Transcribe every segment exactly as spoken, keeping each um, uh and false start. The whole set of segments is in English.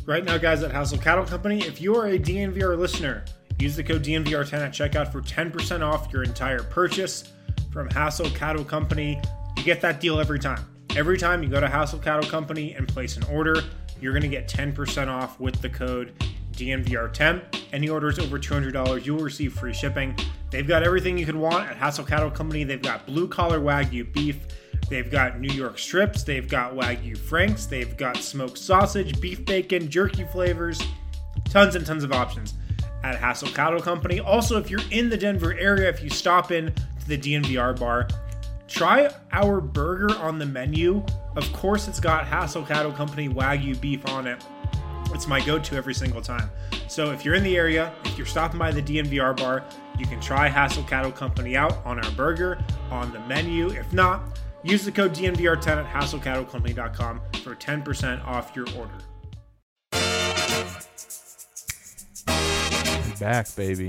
Right now, guys, at Hassel Cattle Company, if you are a D N V R listener, use the code D N V R ten at checkout for ten percent off your entire purchase from Hassel Cattle Company. You get that deal every time. Every time you go to Hassel Cattle Company and place an order, you're going to get ten percent off with the code D N V R ten. Any orders over two hundred dollars, you will receive free shipping. They've got everything you could want at Hassel Cattle Company. They've got blue-collar Wagyu beef. They've got New York strips. They've got Wagyu Franks. They've got smoked sausage, beef bacon, jerky flavors. Tons and tons of options at Hassel Cattle Company. Also, if you're in the Denver area, if you stop in to the D N V R bar, try our burger on the menu. Of course, it's got Hassel Cattle Company Wagyu beef on it. It's my go-to every single time. So if you're in the area, if you're stopping by the D N V R bar, you can try Hassel Cattle Company out on our burger on the menu. If not, use the code D N V R ten at hassel cattle company dot com for ten percent off your order. Back, baby.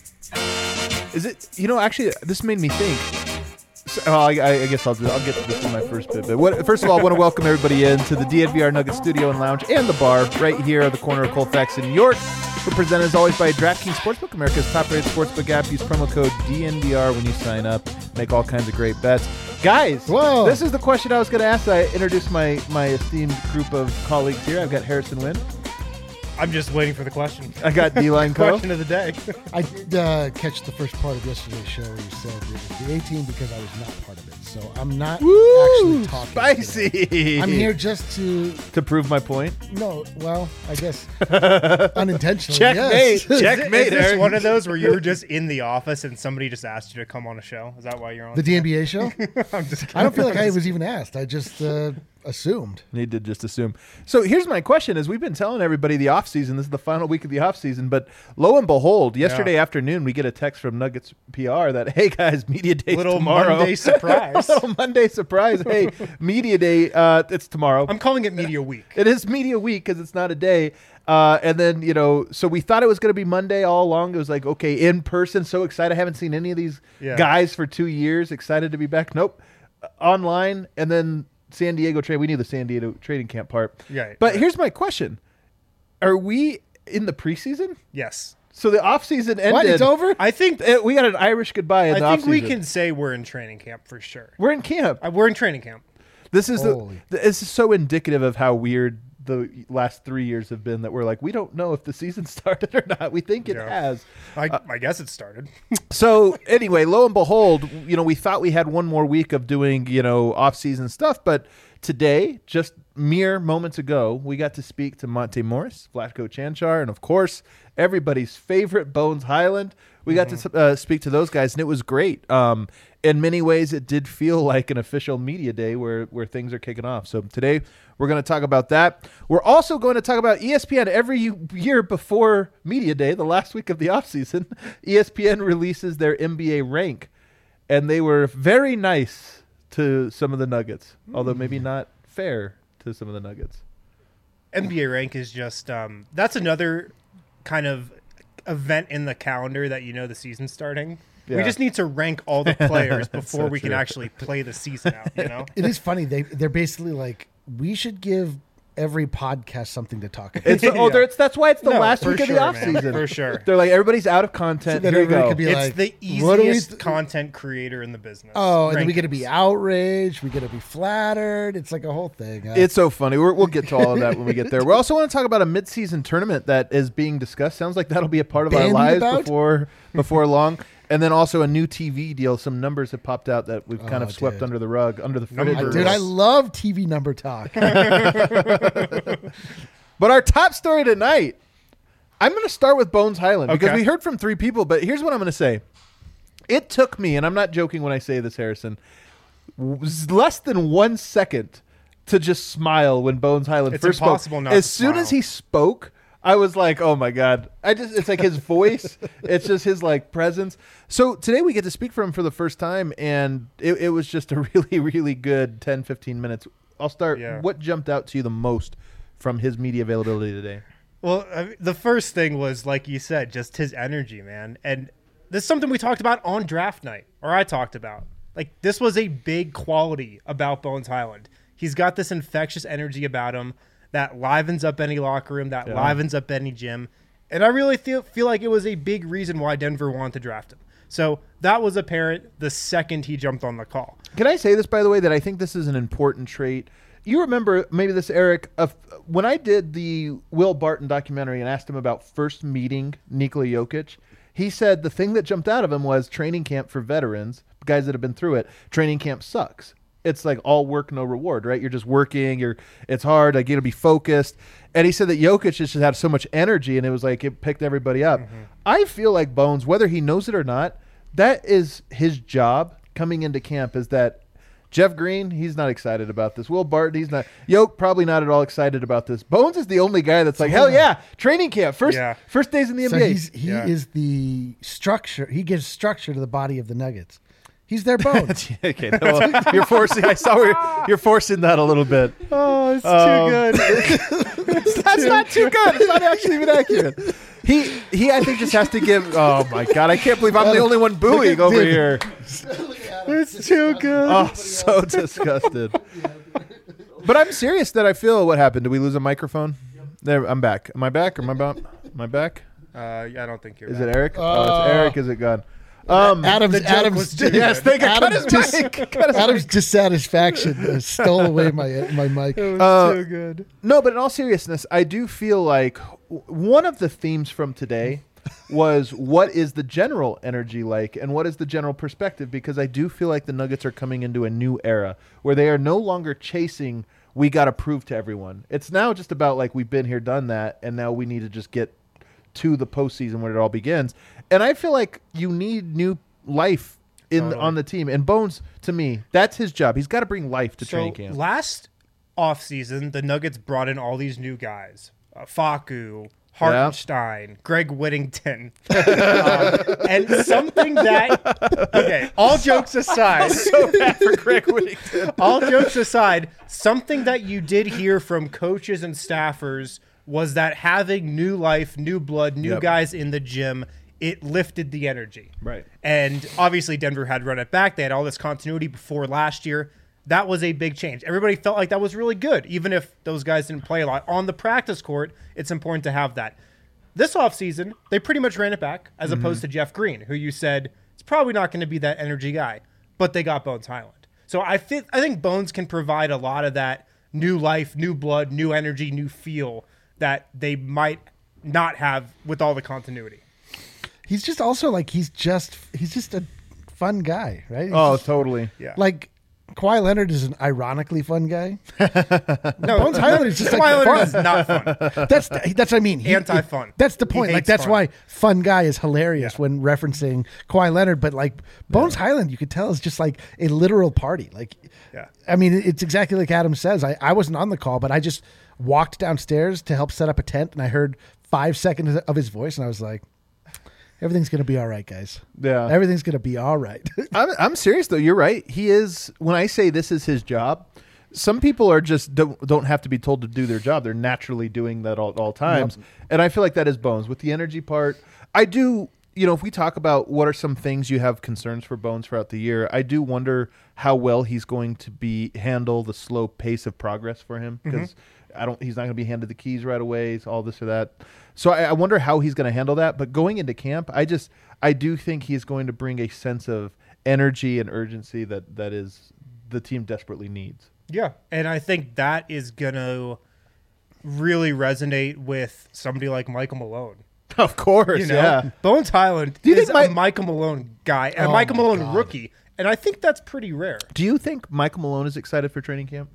Is it, you know, actually, this made me think. So, oh, I, I guess I'll do, I'll get to this in my first bit. But what, first of all, I want to welcome everybody in to the D N V R Nugget Studio and Lounge and the bar right here at the corner of Colfax in New York. We're presented as always by DraftKings Sportsbook, America's top-rated sportsbook app. Use promo code D N V R when you sign up. Make all kinds of great bets. Guys, Whoa. This is the question I was going to ask. I introduced my, my esteemed group of colleagues here. I've got Harrison Wynn. I'm just waiting for the question. I got D-Line Co. Question of the day. I did uh, catch the first part of yesterday's show where you said it was the A-team because I was not part of it. So I'm not Woo, actually talking. Spicy. Today. I'm here just to... To prove my point? No, well, I guess unintentionally, Checkmate. yes. Checkmate. Is this Eric. one of those where you were just in the office and somebody just asked you to come on a show? Is that why you're on The D N B A show? I'm just kidding. I don't feel like I was even asked. I just uh, assumed. Need to just assume. So here's my question: is we've been telling everybody the off season. This is the final week of the off season, but lo and behold, yesterday Yeah. afternoon we get a text from Nuggets P R that, hey guys, media day Little tomorrow. Monday surprise. Little Monday surprise. Hey, media day. Uh, it's tomorrow. I'm calling it Media Week. It is media week because it's not a day. Uh, and then, you know, so we thought it was going to be Monday all along. It was like, okay, in person. So excited. I haven't seen any of these Yeah. guys for two years. Excited to be back. Nope. Uh, online. And then San Diego trade. We knew the San Diego trading camp part. Yeah. But yeah. here's my question. Are we in the preseason? Yes. So the offseason ended. What? It's over? I think Uh, We got an Irish goodbye in I the think offseason. we can say we're in training camp for sure. We're in camp. Uh, we're in training camp. This is the, Holy. this is so indicative of how weird the last three years have been that we're like, we don't know if the season started or not. We think it Yeah. has. I, Uh, I guess it started. So anyway, lo and behold, you know, we thought we had one more week of doing, you know, off-season stuff, but today, just mere moments ago, we got to speak to Monte Morris, Vlatko Chanchar, and of course, everybody's favorite Bones Hyland. We got Mm-hmm. to uh, speak to those guys, and it was great. Um, in many ways, it did feel like an official media day where, where things are kicking off. So today, we're going to talk about that. We're also going to talk about E S P N every year before media day, the last week of the offseason. E S P N releases their N B A rank, and they were very nice to some of the Nuggets, although maybe not fair to some of the Nuggets. N B A rank is just um, that's another kind of event in the calendar that you know the season's starting. Yeah. We just need to rank all the players before so we can true. actually play the season out. You know, It is funny. They, they're basically like, we should give every podcast something to talk about. It's oh, Yeah. there- it's that's why it's the No, last for week of sure, the man, offseason. for sure. They're like, everybody's out of content. So that Here you everybody go. could be it's like, the what do we easiest th- content creator in the business. Oh, and then we Rankings. get to be outraged. We get to be flattered. It's like a whole thing. Uh, It's so funny. We're, we'll get to all of that when we get there. We also want to talk about a mid-season tournament that is being discussed. Sounds like that'll be a part of our Bandied lives about? before before long. And then also a new T V deal. Some numbers have popped out that we've kind Oh, of swept dude. under the rug, under the Numbers. fridge. I, dude, I love T V number talk. But our top story tonight, I'm going to start with Bones Hyland because Okay. we heard from three people. But here's what I'm going to say. It took me, and I'm not joking when I say this, Harrison, was less than one second to just smile when Bones Hyland It's first impossible spoke. not As to soon smile. as he spoke, I was like, oh my God. I just it's like his voice. It's just his like presence. So today we get to speak for him for the first time, and it, it was just a really, really good ten, fifteen minutes. I'll start. Yeah. What jumped out to you the most from his media availability today? Well, I mean, the first thing was, like you said, just his energy, man. And this is something we talked about on draft night, or I talked about. Like, this was a big quality about Bones Hyland. He's got this infectious energy about him that livens up any locker room, that Yeah. livens up any gym. And I really feel feel like it was a big reason why Denver wanted to draft him. So that was apparent the second he jumped on the call. Can I say this, by the way, that I think this is an important trait? You remember, maybe this, Eric, uh, when I did the Will Barton documentary and asked him about first meeting Nikola Jokic, he said the thing that jumped out of him was training camp for veterans, guys that have been through it, training camp sucks. It's like all work, no reward, right? You're just working. You're. It's hard. Like, you got to be focused. And he said that Jokic just had so much energy, and it was like it picked everybody up. Mm-hmm. I feel like Bones, whether he knows it or not, that is his job coming into camp. Is that Jeff Green? He's not excited about this. Will Barton? He's not. Yoke probably not at all excited about this. Bones is the only guy that's like, hell yeah, training camp, first Yeah. first days in the So N B A. he's, he Yeah. is the structure. He gives structure to the body of the Nuggets. He's their bones. Okay, well, you're forcing. I saw where you're, you're forcing that a little bit. Oh, it's Um, too good. That's not too good. It's not actually even accurate. He he I think just has to give. Oh my god! I can't believe I'm the only one booing over Dude. here. It's too good. Oh, so disgusted. But I'm serious that I feel. What happened? Did we lose a microphone? There, I'm back. Am I back? Am I back? Am I back? Uh, I don't think you're Is back. it Eric? oh, Uh, it's Eric. Is it gone? Um, Adam's the joke Adam's was too yes, good. thank you. Cut Adam's, his dis- mic. Cut his Adam's mic. dissatisfaction uh, stole away my my mic. It was Uh, too good. No, but in all seriousness, I do feel like w- one of the themes from today was what is the general energy like and what is the general perspective, because I do feel like the Nuggets are coming into a new era where they are no longer chasing we got to prove to everyone. It's now just about like we've been here, done that, and now we need to just get to the postseason where it all begins. And I feel like you need new life in Totally. on the team. And Bones, to me, that's his job. He's got to bring life to So training camp. last offseason, the Nuggets brought in all these new guys. Uh, Facu, Hartenstein, Greg Whittington. um, and something that, okay, all jokes aside, So bad for Greg Whittington. all jokes aside, something that you did hear from coaches and staffers was that having new life, new blood, new Yep. guys in the gym, it lifted the energy. Right. And obviously Denver had run it back. They had all this continuity before last year. That was a big change. Everybody felt like that was really good, even if those guys didn't play a lot. On the practice court, it's important to have that. This offseason, they pretty much ran it back, as Mm-hmm. opposed to Jeff Green, who you said is probably not going to be that energy guy. But they got Bones Highland. So I, th- I think Bones can provide a lot of that new life, new blood, new energy, new feel that they might not have with all the continuity. He's just also like he's just he's just a fun guy, right? He's Oh, just- totally. Yeah. like Kawhi Leonard is an ironically fun guy. No, Bones Highland is just like Kawhi Leonard fun. is not fun. That's the, that's what I mean. He- Anti-fun. That's the He point. Like hates that's fun. why fun guy is hilarious when referencing Kawhi Leonard. But like Bones Highland, you could tell is just like a literal party. Like, Yeah. I mean, it's exactly like Adam says. I, I wasn't on the call, but I just walked downstairs to help set up a tent, and I heard five seconds of his voice, and I was like, everything's gonna be all right, guys. Yeah. Everything's gonna be all right. I'm, I'm serious though. You're right. He is. When I say this is his job, some people are just don't don't have to be told to do their job. They're naturally doing that all, all times. And I feel like that is Bones with the energy part. I do. You know, if we talk about what are some things you have concerns for Bones throughout the year, I do wonder how well he's going to be handle the slow pace of progress for him, because I don't. He's not going to be handed the keys right away. All this or that. So I, I wonder how he's going to handle that. But going into camp, I just I do think he's going to bring a sense of energy and urgency that that is the team desperately needs. Yeah, and I think that is gonna really resonate with somebody like Michael Malone. Of course, You know, yeah. Bones Highland Do you is think Mi- a Michael Malone guy, a Oh Michael my Malone God. rookie, and I think that's pretty rare. Do you think Michael Malone is excited for training camp?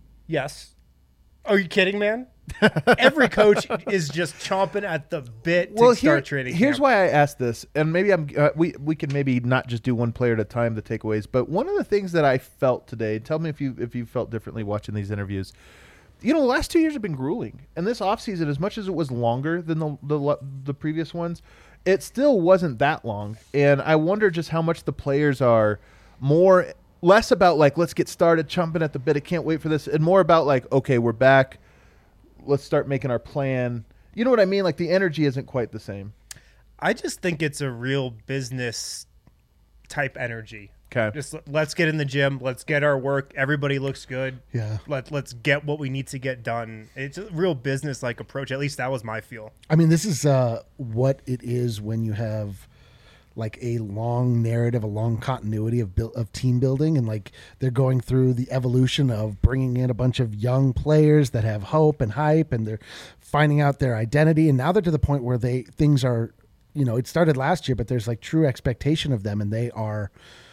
Yes. Are you kidding, man? Every coach is just chomping at the bit to Well, start here, training here's camp. why I asked this, and maybe I'm uh, we we can maybe not just do one player at a time, the takeaways. But one of the things that I felt today, tell me if you if you felt differently watching these interviews. You know, the last two years have been grueling, and this offseason, as much as it was longer than the, the the previous ones, it still wasn't that long. And I wonder just how much the players are more less about like let's get started, chomping at the bit, I can't wait for this, and more about like okay, we're back, let's start making our plan. You know what I mean? Like the energy isn't quite the same. I just think it's a real business type energy. Okay. Just l- let's get in the gym. Let's get our work. Everybody looks good. Yeah. Let let's get what we need to get done. It's a real business like approach. At least that was my feel. I mean, this is uh, what it is when you have like a long narrative, a long continuity of build, of team building, and like they're going through the evolution of bringing in a bunch of young players that have hope and hype, and they're finding out their identity, and now they're to the point where they things are, you know, it started last year, but there's like true expectation of them, and they are,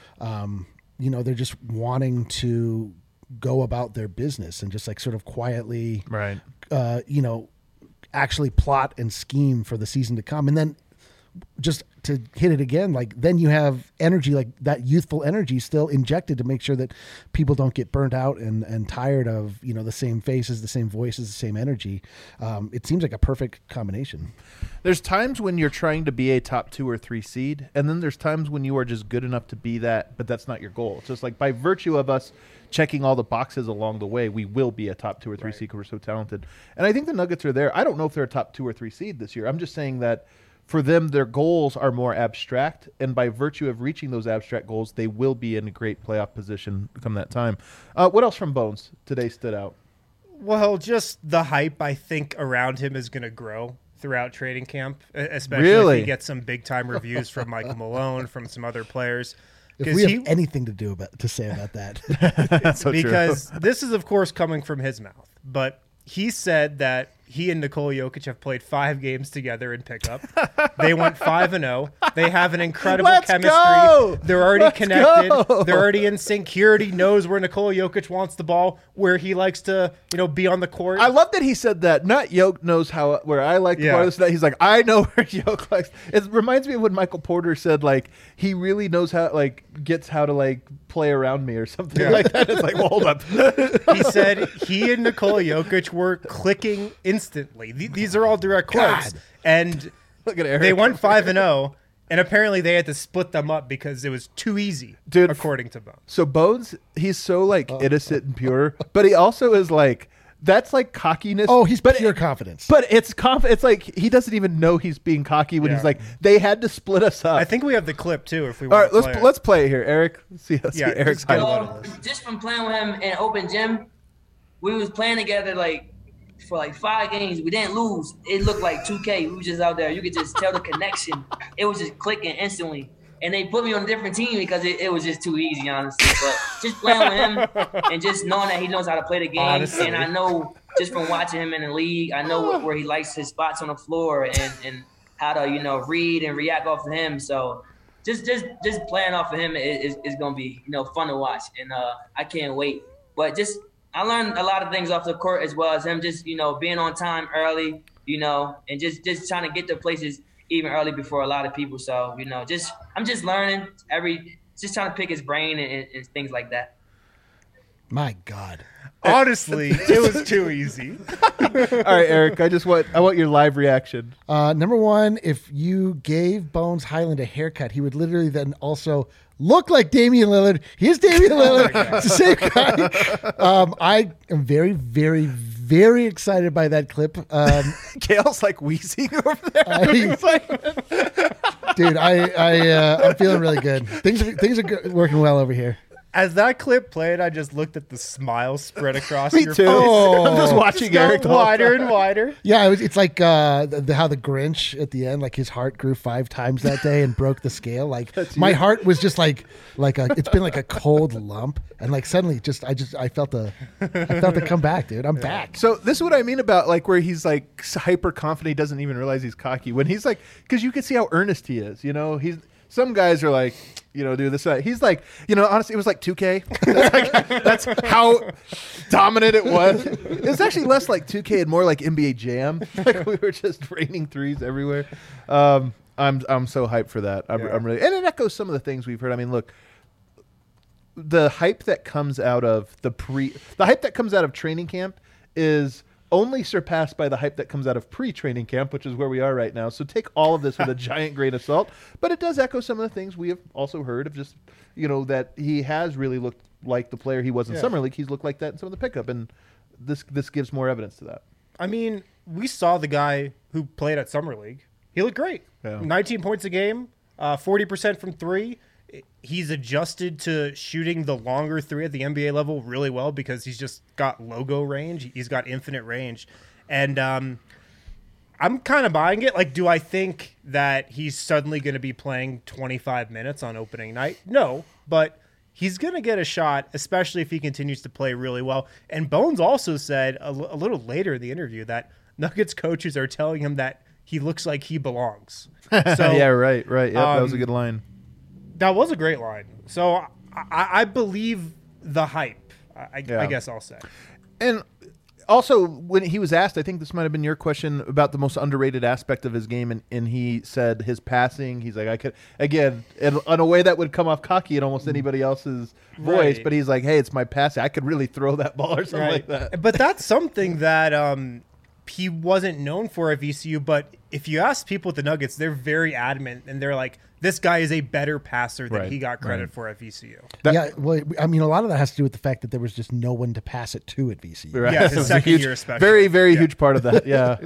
um, you know, they're just wanting to go about their business and just like sort of quietly, Right. uh, you know, actually plot and scheme for the season to come. And then just to hit it again, like then you have energy, like that youthful energy still injected to make sure that people don't get burnt out and, and tired of, you know, the same faces, the same voices, the same energy. Um, it seems like a perfect combination. There's times when you're trying to be a top two or three seed, and then there's times when you are just good enough to be that, but that's not your goal. It's just like by virtue of us checking all the boxes along the way, we will be a top two or three Right. seed because we're so talented. And I think the Nuggets are there. I don't know if they're a top two or three seed this year. I'm just saying that for them, their goals are more abstract, and by virtue of reaching those abstract goals, they will be in a great playoff position come that time. Uh, what else from Bones today stood out? Well, just the hype I think around him is going to grow throughout training camp, e- especially Really? if he gets some big time reviews from Michael Malone, from some other players. If 'Cause we have he- anything to do about to say about that, That's so true. because this is, of course, coming from his mouth. But he said that he and Nikola Jokic have played five games together in pickup. They went five and zero. They have an incredible Let's chemistry. go! They're already Let's connected. go! They're already in sync. He already knows where Nikola Jokic wants the ball, where he likes to, you know, be on the court. I love that he said that. Not Yoke knows how where I like to Yeah. play this. That he's like, I know where Yoke likes. It reminds me of when Michael Porter said like he really knows how like gets how to like play around me or something Yeah. like that. It's like, well, hold up. He said he and Nikola Jokic were clicking instantly. Th- These are all direct quotes. God. And Look at Eric. they went five and zero, and apparently they had to split them up because it was too easy, Dude, according to Bones. So Bones, he's so like innocent and pure, but he also is like that's like cockiness. oh, he's but pure it- confidence. But it's conf- It's like he doesn't even know he's being cocky when Yeah. he's like they had to split us up. I think we have the clip too. If we All want right, to let's play it. let's play it here, Eric. Let's see, let's Yeah, see Eric's just get highlight. a- Well, just from playing with him in open gym, we was playing together like for like five games. We didn't lose. It looked like two K. We was just out there. You could just tell the connection. It was just clicking instantly. And they put me on a different team because it, it was just too easy, honestly. But just playing with him and just knowing that he knows how to play the game. Honestly. And I know just from watching him in the league, I know where, where he likes his spots on the floor and, and how to, you know, read and react off of him. So just just just playing off of him is, is, is gonna be, you know, fun to watch, and uh, I can't wait. But just I learned a lot of things off the court as well as him, just, you know, being on time early, you know, and just just trying to get to places even early before a lot of people. So, you know, just I'm just learning every, just trying to pick his brain and, and, and things like that. My God. Honestly, it was too easy. All right, Eric. I just want I want your live reaction. Uh, number one, if you gave Bones Highland a haircut, he would literally then also look like Damian Lillard. He is Damian Lillard. It's the same guy. Um, I am very, very, very excited by that clip. Um, Gail's like wheezing over there. I- dude, I, I, uh, I'm feeling really good. Things are, things are go- working well over here. As that clip played, I just looked at the smile spread across Me your too. face. Oh. I'm just watching Just Eric got the whole wider time. and wider. Yeah, it was, it's like uh, the, the, how the Grinch at the end, like his heart grew five times that day and broke the scale. Like my heart was just like like a, it's been like a cold lump, and like suddenly just I just I felt the I felt it come back, dude. I'm back. So this is what I mean about like where he's like hyper confident, he doesn't even realize he's cocky. When he's like, because you can see how earnest he is. You know, he's some guys are like, you know, do this. That. He's like, you know, honestly, it was like two K. That's, like, that's how dominant it was. It's actually less like two K and more like N B A Jam. Like we were just raining threes everywhere. Um, I'm I'm so hyped for that. I'm, Yeah. I'm really, and it echoes some of the things we've heard. I mean, look. The hype that comes out of the pre, the hype that comes out of training camp is only surpassed by the hype that comes out of pre-training camp, which is where we are right now. So take all of this with a giant grain of salt. But it does echo some of the things we have also heard of just, you know, that he has really looked like the player he was in Yeah. Summer League. He's looked like that in some of the pickup. And this this gives more evidence to that. I mean, we saw the guy who played at Summer League. He looked great. Yeah. nineteen points a game, uh, forty percent from three. he's adjusted to shooting the longer three at the N B A level really well because he's just got logo range. He's got infinite range. And um, I'm kind of buying it. Like, do I think that he's suddenly going to be playing twenty-five minutes on opening night? No, but he's going to get a shot, especially if he continues to play really well. And Bones also said a, l- a little later in the interview that Nuggets coaches are telling him that he looks like he belongs. So, yeah, right, right. Yep, um, that was a good line. That was a great line. So I, I believe the hype, I, Yeah. I guess I'll say. And also, when he was asked, I think this might have been your question about the most underrated aspect of his game, and, and he said his passing. He's like, I could, again, in, in a way that would come off cocky in almost anybody else's voice, Right. but he's like, hey, it's my passing. I could really throw that ball or something like that. But that's something that um, he wasn't known for at V C U. But if you ask people at the Nuggets, they're very adamant, and they're like, this guy is a better passer than Right, he got credit right. for at V C U. That- yeah, well, I mean, a lot of that has to do with the fact that there was just no one to pass it to at V C U. Right. Yeah, his It was a second huge- year especially. Very, very Yeah. huge part of that. Yeah.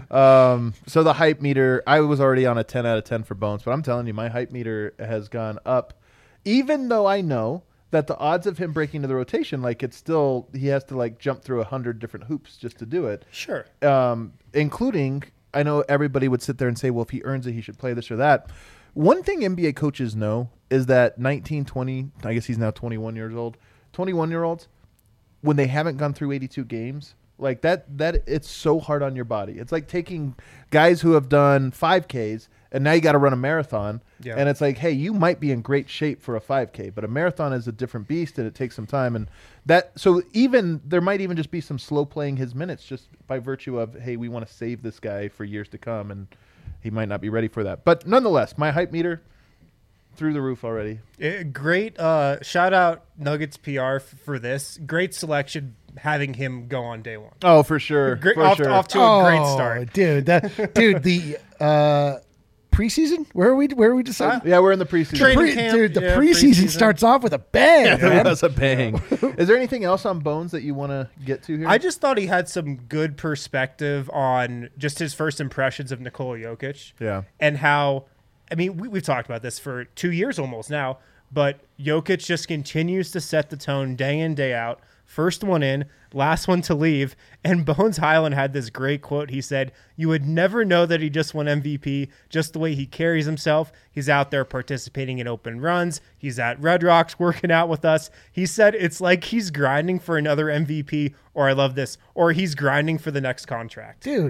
um, so the hype meter, I was already on a ten out of ten for Bones, but I'm telling you, my hype meter has gone up, even though I know that the odds of him breaking into the rotation, like it's still, he has to like jump through a hundred different hoops just to do it. Sure. Um, including, I know everybody would sit there and say, well, if he earns it, he should play this or that. One thing N B A coaches know is that nineteen, twenty, I guess he's now twenty-one years old, twenty-one year olds, when they haven't gone through eighty-two games, like that, that it's so hard on your body. It's like taking guys who have done five Ks and now you got to run a marathon. Yeah. And it's like, hey, you might be in great shape for a five K, but a marathon is a different beast and it takes some time. And that, so even there might even just be some slow playing his minutes just by virtue of, hey, we want to save this guy for years to come. And he might not be ready for that. But nonetheless, my hype meter through the roof already. Eh, great. Uh, shout out Nuggets P R f- for this. Great selection having him go on day one. Oh, for sure. Great, for off, sure. off to a great start. Oh, dude. That dude, the uh, preseason? Where are we? Where are we deciding? Yeah, we're in the preseason. Training Pre- camp, dude, the yeah, preseason, preseason. starts off with a bang. man. That's a bang. Is there anything else on Bones that you want to get to here? I just thought he had some good perspective on just his first impressions of Nikola Jokic. Yeah. And how, I mean, we, we've talked about this for two years almost now, but Jokic just continues to set the tone day in, day out. First one in, last one to leave. And Bones Highland had this great quote. He said, you would never know that he just won M V P, just the way he carries himself. He's out there participating in open runs. He's at Red Rocks working out with us. He said it's like he's grinding for another M V P, or I love this, or he's grinding for the next contract. Dude,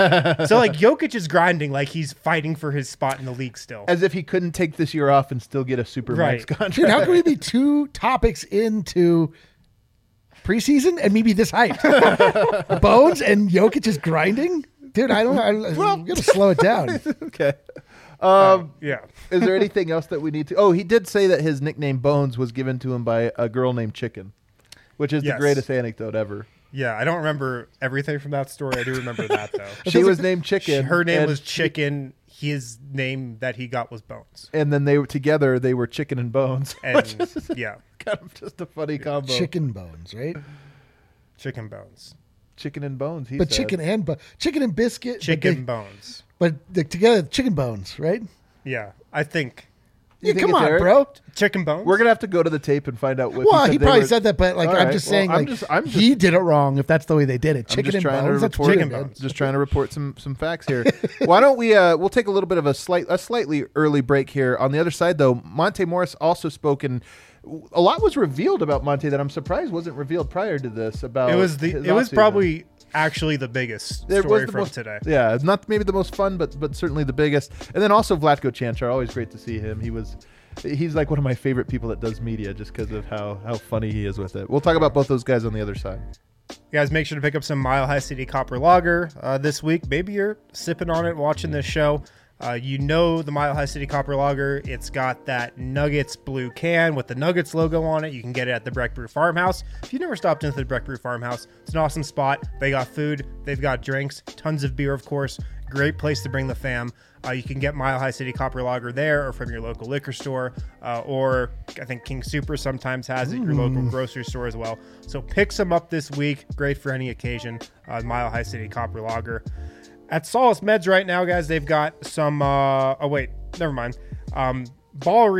So like Jokic is grinding like he's fighting for his spot in the league still. As if he couldn't take this year off and still get a super max Right. contract. dude, how can we be two topics into preseason and maybe this hype? Bones and Jokic is grinding? Dude, I don't I, I'm going to slow it down. Okay. Um, Yeah. is there anything else that we need to? Oh, he did say that his nickname Bones was given to him by a girl named Chicken, which is Yes. the greatest anecdote ever. Yeah, I don't remember everything from that story. I do remember that though. She was named Chicken. Her name and was she- Chicken. His name that he got was Bones. and then they were together. They were Chicken and Bones. And yeah, Kind of just a funny combo. Chicken bones, right? Chicken Bones. Chicken and Bones. He But said. chicken and bu- chicken and biscuit. but Chicken they- Bones. But they're together, chicken bones, right? Yeah, I think You Yeah, think come it's on, Eric? bro. Chicken Bones. We're gonna have to go to the tape and find out what. Well, said he they probably were- said that, but like All I'm right, just well, saying, I'm like just- I'm just- he did it wrong if that's the way they did it. I'm Chicken just and trying bones. to That's report. weird, Chicken man. bones. Just trying to report some some facts here. Why don't we? Uh, we'll take a little bit of a slight a slightly early break here. On the other side, though, Monte Morris also spoke, and a lot was revealed about Monte that I'm surprised wasn't revealed prior to this. About It was the. his It was offseason. probably actually the biggest It story was the from most, today. Yeah, it's not maybe the most fun, but but certainly the biggest. And then also Vlatko Chanchar, always great to see him. He was. He's like one of my favorite people that does media just because of how, how funny he is with it. We'll talk about both those guys on the other side. You guys, make sure to pick up some Mile High City Copper Lager uh, this week. Maybe you're sipping on it, watching this show. Uh, you know the Mile High City Copper Lager. It's got that Nuggets blue can with the Nuggets logo on it. You can get it at the Breck Brew Farmhouse. If you've never stopped into the Breck Brew Farmhouse, it's an awesome spot. They got food. They've got drinks. Tons of beer, of course. Great place to bring the fam. Uh, you can get Mile High City Copper Lager there or from your local liquor store. Uh, or I think King Super sometimes has it at your local grocery store as well. So pick some up this week. Great for any occasion. Uh, Mile High City Copper Lager. At Solace Meds right now, guys, they've got some. Uh, oh, wait, never mind. Um, Ball Arena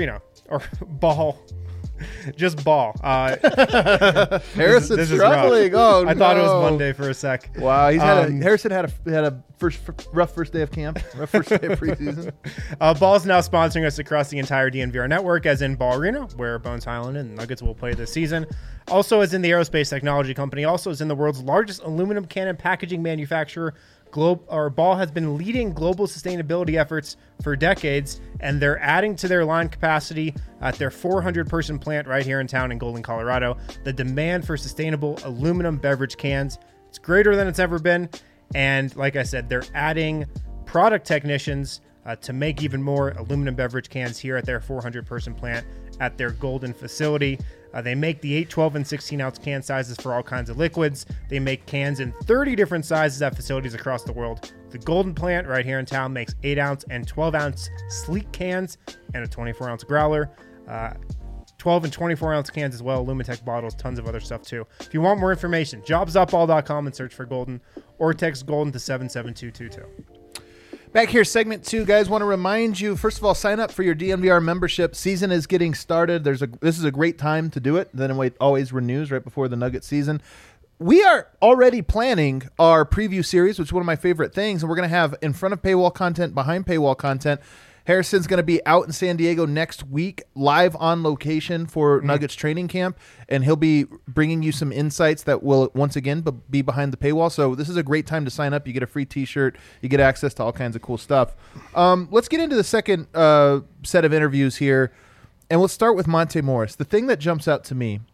or Ball. Just Ball. Uh, Harrison's this is struggling. rough. Oh, I thought it was no. Monday for a sec. Wow, he's had Um, a Harrison had a had a first rough first day of camp, rough first day of preseason. Uh, Ball's now sponsoring us across the entire D N V R network, as in Ball Arena, where Bones Highland and Nuggets will play this season. Also, as in the aerospace technology company. Also, as in the world's largest aluminum can and packaging manufacturer. Globe or Ball has been leading global sustainability efforts for decades, and they're adding to their line capacity at their four hundred person plant right here in town in Golden, Colorado. The demand for sustainable aluminum beverage cans, it's greater than it's ever been. And like I said, they're adding product technicians uh, to make even more aluminum beverage cans here at their four hundred person plant at their Golden facility. Uh, they make the eight, twelve, and sixteen ounce can sizes for all kinds of liquids. They make cans in thirty different sizes at facilities across the world. The Golden plant right here in town makes eight ounce and twelve ounce sleek cans and a twenty-four ounce growler. Uh, twelve and twenty-four ounce cans as well, Lumitech bottles, tons of other stuff too. If you want more information, jobs dot ball dot com and search for Golden, or text Golden to seven seven two two two. Back here, segment two, guys. Want to remind you, first of all, sign up for your D N V R membership. Season is getting started. There's a this is a great time to do it. Then it always renews right before the Nugget season. We are already planning our preview series, which is one of my favorite things, and we're going to have in front of paywall content, behind paywall content. Harrison's going to be out in San Diego next week, live on location for mm-hmm. Nuggets training camp, and he'll be bringing you some insights that will, once again, be behind the paywall. So this is a great time to sign up. You get a free T-shirt. You get access to all kinds of cool stuff. Um, let's get into the second uh, set of interviews here, and we'll start with Monte Morris. The thing that jumps out to me,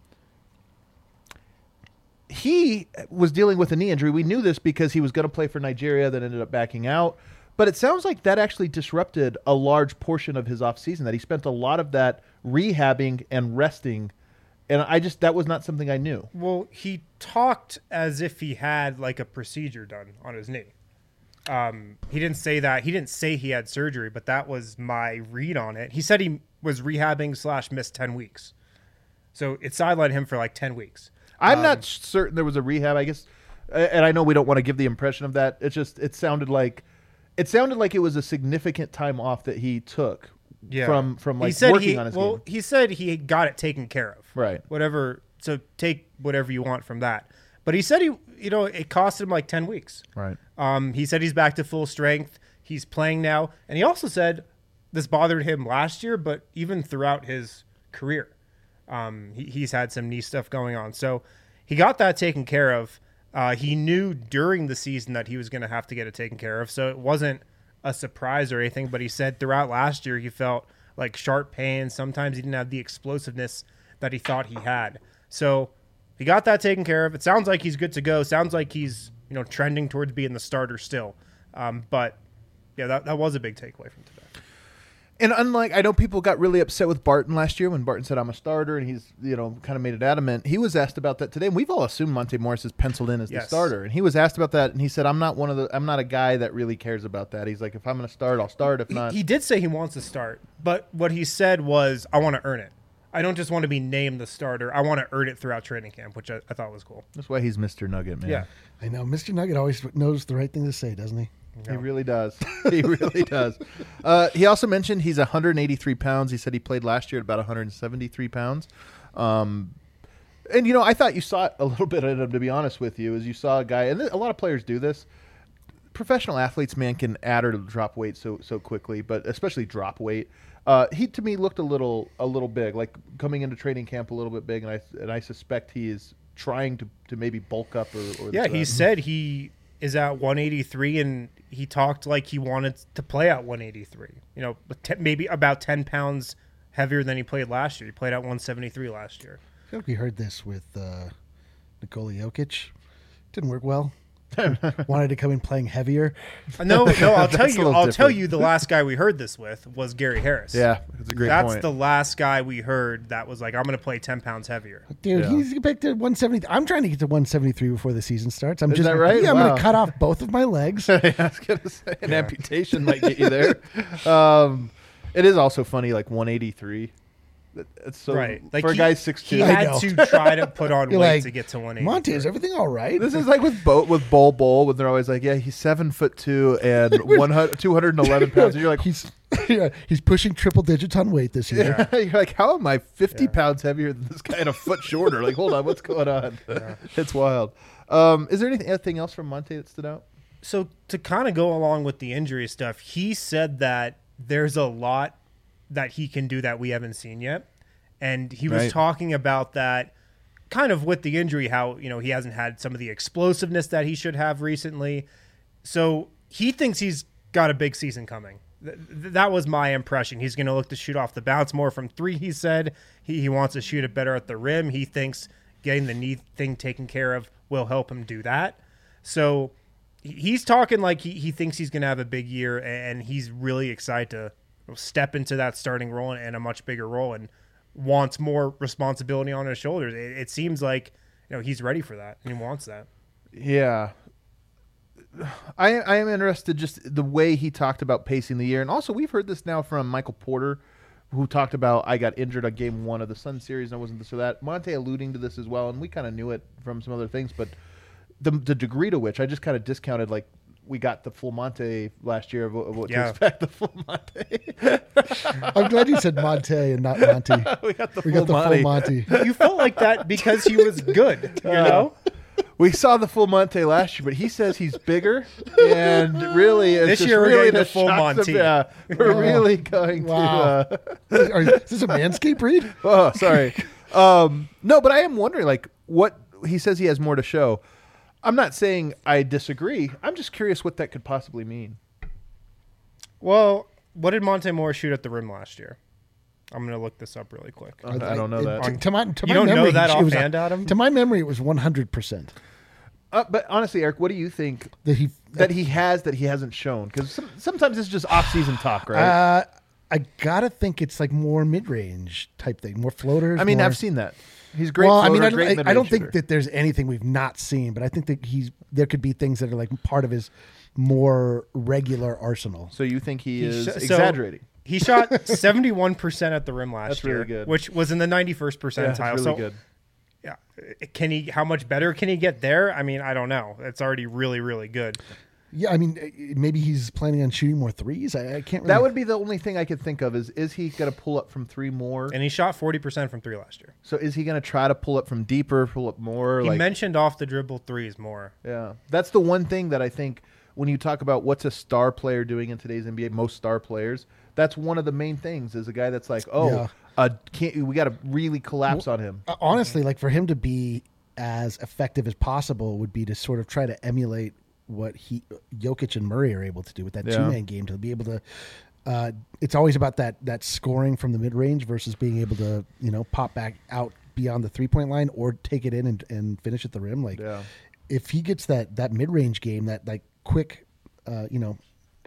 he was dealing with a knee injury. We knew this because he was going to play for Nigeria, then ended up backing out. But it sounds like that actually disrupted a large portion of his offseason, that he spent a lot of that rehabbing and resting. And I just, that was not something I knew. Well, he talked as if he had like a procedure done on his knee. Um, he didn't say that. He didn't say he had surgery, but that was my read on it. He said he was rehabbing slash missed ten weeks. So it sidelined him for like ten weeks. I'm um, not certain there was a rehab, I guess. And I know we don't want to give the impression of that. It's just, it sounded like, It sounded like it was a significant time off that he took yeah. from from like he said working he, on his well, game. he said he got it taken care of. Right. Whatever. So take whatever you want from that. But he said he, you know, it cost him like ten weeks. Right. Um, he said he's back to full strength. He's playing now, and he also said this bothered him last year, but even throughout his career, um, he, he's had some knee stuff going on. So he got that taken care of. Uh, he knew during the season that he was going to have to get it taken care of, so it wasn't a surprise or anything. But he said throughout last year he felt like sharp pain. Sometimes he didn't have the explosiveness that he thought he had. So he got that taken care of. It sounds like he's good to go. Sounds like he's, you know, trending towards being the starter still. Um, but yeah, that, that was a big takeaway from today. And unlike, I know people got really upset with Barton last year when Barton said, I'm a starter, and he's, you know, kind of made it adamant. He was asked about that today, and we've all assumed Monte Morris is penciled in as Yes. the starter. And he was asked about that, and he said, I'm not one of the, I'm not a guy that really cares about that. He's like, if I'm going to start, I'll start. If He, not. he did say he wants to start, but what he said was, I want to earn it. I don't just want to be named the starter. I want to earn it throughout training camp, which I, I thought was cool. That's why he's Mister Nugget, man. Yeah. I know. Mister Nugget always knows the right thing to say, doesn't he? He really does. He really does. Uh, he also mentioned he's one hundred eighty-three pounds. He said he played last year at about one hundred seventy-three pounds. Um, and, you know, I thought you saw it a little bit in him, to be honest with you, as you saw a guy, and a lot of players do this. Professional athletes, man, can add or drop weight so so quickly, but especially drop weight. Uh, he, to me, looked a little a little big, like coming into training camp a little bit big, and I and I suspect he is trying to, to maybe bulk up. Or, or Yeah, he that. said he is at one eighty-three, and he talked like he wanted to play at one eighty-three. You know, te- maybe about ten pounds heavier than he played last year. He played at one seventy-three last year. I feel like we heard this with uh, Nikola Jokic. Didn't work well. Wanted to come in playing heavier. Uh, No, no, I'll tell That's a you. little I'll tell different. you. The last guy we heard this with was Gary Harris. Yeah, that's a great That's point. the last guy we heard that was like, I'm going to play ten pounds heavier. Dude, Yeah. he's back to one seventy. I'm trying to get to one seventy-three before the season starts. I'm Is just that right? Yeah, I'm Wow. going to cut off both of my legs. I was gonna say an amputation might get you there. Um, it is also funny, like one eighty-three. It's so Right. Like for a he- guy six He two. I had know. to try to put on weight You're like, to get to one eighty. Monty, is everything all right? This is like with Bo with Bol Bol when they're always like, yeah, he's seven foot two and one hundred, two hundred eleven pounds. And you're like, he's yeah, he's pushing triple digits on weight this year. you're like, how am I fifty pounds heavier than this guy and a foot shorter? Like, hold on, what's going on? It's wild. Um, is there anything, anything else from Monte that stood out? So to kind of go along with the injury stuff, he said that there's a lot that he can do that we haven't seen yet. And he was Right. talking about that kind of with the injury, how, you know, he hasn't had some of the explosiveness that he should have recently. So he thinks he's got a big season coming. Th- th- that was my impression. He's going to look to shoot off the bounce more from three, he said. He, he wants to shoot it better at the rim. He thinks getting the knee thing taken care of will help him do that. So he- he's talking like he, he thinks he's going to have a big year, and he's really excited to step into that starting role and a much bigger role, and wants more responsibility on his shoulders. It, it seems like, you know, he's ready for that and he wants that. Yeah. I I am interested just the way he talked about pacing the year. And also we've heard this now from Michael Porter, who talked about I got injured on game one of the Sun series and I wasn't this or that. Monte alluding to this as well, and we kind of knew it from some other things, but the the degree to which I just kind of discounted, like, we got the full Monte last year of, what- of what Yeah. to expect. The full Monte. I'm glad you said Monte and not Monty. we got the We full got the Monte. full Monty. You felt like that because he was good, you know? We saw the full Monte last year, but he says he's bigger, and really, it's This just year we're really getting the the full shots of- Monte. yeah, we're Wow. really going Wow. to. Uh, Are, is this a Manscaped read? oh, sorry. um, no, but I am wondering, like, what he says he has more to show. I'm not saying I disagree. I'm just curious what that could possibly mean. Well, what did Monte Moore shoot at the rim last year? I'm going to look this up really quick. I don't know that. To, to my, to You my don't know memory, that it was- offhand, Adam? To my memory, it was one hundred percent Uh, but honestly, Eric, what do you think that he that he has that he hasn't shown? Because some, sometimes it's just off-season talk, right? Uh, I gotta think it's like more mid-range type thing, more floaters. I mean, more- I've seen that. He's great. Well, I mean, floater, I, great don't- I, I mid-range don't think shooter. that there's anything we've not seen, but I think that he's there could be things that are like part of his more regular arsenal. So you think he, He is sh- so- exaggerating? He shot seventy-one percent at the rim last That's year, really good. which was in the ninety-first Yeah, percentile. that's really so, good. yeah, can he? How much better can he get there? I mean, I don't know. It's already really, really good. Yeah, I mean, eh, maybe he's planning on shooting more threes. I, I can't. Really, That would be the only thing I could think of. Is is he going to pull up from three more? And he shot forty percent from three last year. So is he going to try to pull up from deeper, pull up more? He like, mentioned off the dribble threes more. yeah, that's the one thing that I think when you talk about what's a star player doing in today's N B A, most star players, that's one of the main things. Is a guy that's like, oh, Yeah. uh, can't we got to really collapse on him? Uh, honestly, like for him to be as effective as possible would be to sort of try to emulate what he Jokic and Murray are able to do with that Yeah. two man game, to be able to uh, it's always about that that scoring from the mid range versus being able to, you know, pop back out beyond the three point line or take it in and, and finish at the rim. Like Yeah. if he gets that that mid range game, that like quick uh, you know,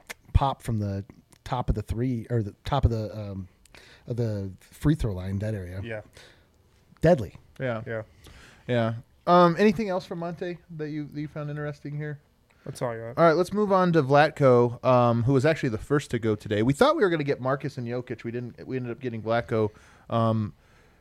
pop from the top of the three or the top of the um of the free throw line, that area. Yeah, Deadly. Yeah, yeah. yeah. Um, anything else from Monte that you that you found interesting here? That's all you got. All right, let's move on to Vlatko, um, who was actually the first to go today. We thought we were going to get Marcus and Jokic. We didn't. We ended up getting Vlatko. Um,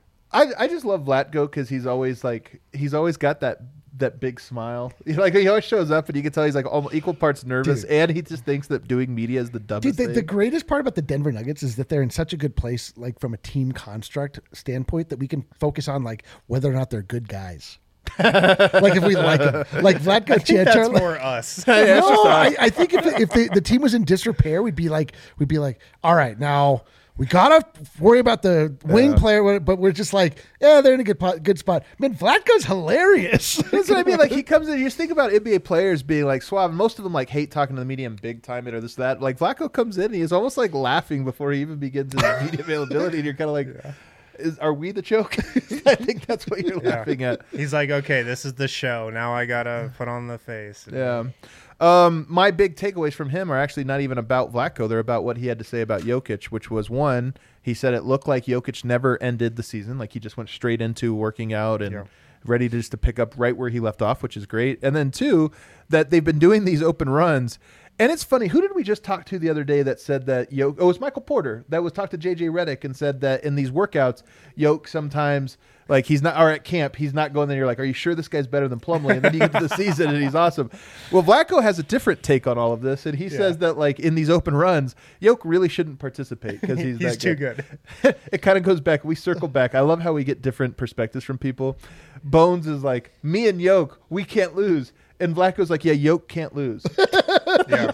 I I just love Vlatko because he's always like he's always got that that big smile. You know, like he always shows up and you can tell he's like almost equal parts nervous, Dude. and he just thinks that doing media is the dumbest Dude, the, thing. the greatest part about the Denver Nuggets is that they're in such a good place, like from a team construct standpoint, that we can focus on like whether or not they're good guys. Like if we like them, like Vlatko That's Čančar. more us. Yeah, it's just No, us. I, I think if if the, the team was in disrepair, we'd be like, we'd be like, all right, now we gotta worry about the wing player, but we're just like, yeah, they're in a good po- good spot. Man, Vlatko's hilarious. That's what I mean. Like he comes in, you just think about N B A players being like suave. Most of them like hate talking to the media and big time it or this that. Like Vlatko comes in, and he's almost like laughing before he even begins his media availability, and you're kind of like, is, "Are we the joke?" I think that's what you're Yeah. laughing at. He's like, okay, this is the show. Now I gotta put on the face. Yeah. Um, my big takeaways from him are actually not even about Vlatko. They're about what he had to say about Jokic, which was one, he said it looked like Jokic never ended the season. Like he just went straight into working out and Yeah. ready to just to pick up right where he left off, which is great. And then two, that they've been doing these open runs And it's funny. Who did we just talk to the other day that said that Yoke? Oh, it was Michael Porter that was talked to J J Redick and said that in these workouts, Yoke sometimes like he's not, or at camp he's not going there. You're like, are you sure this guy's better than Plumlee? And then you get to the season and he's awesome. Well, Vlatko has a different take on all of this, and he yeah. says that like in these open runs, Yoke really shouldn't participate because he's he's that too good. good. It kind of goes back. We circle back. I love how we get different perspectives from people. Bones is like, me and Yoke, we can't lose. And Vlatko's like, yeah, Yoke can't lose. Yeah.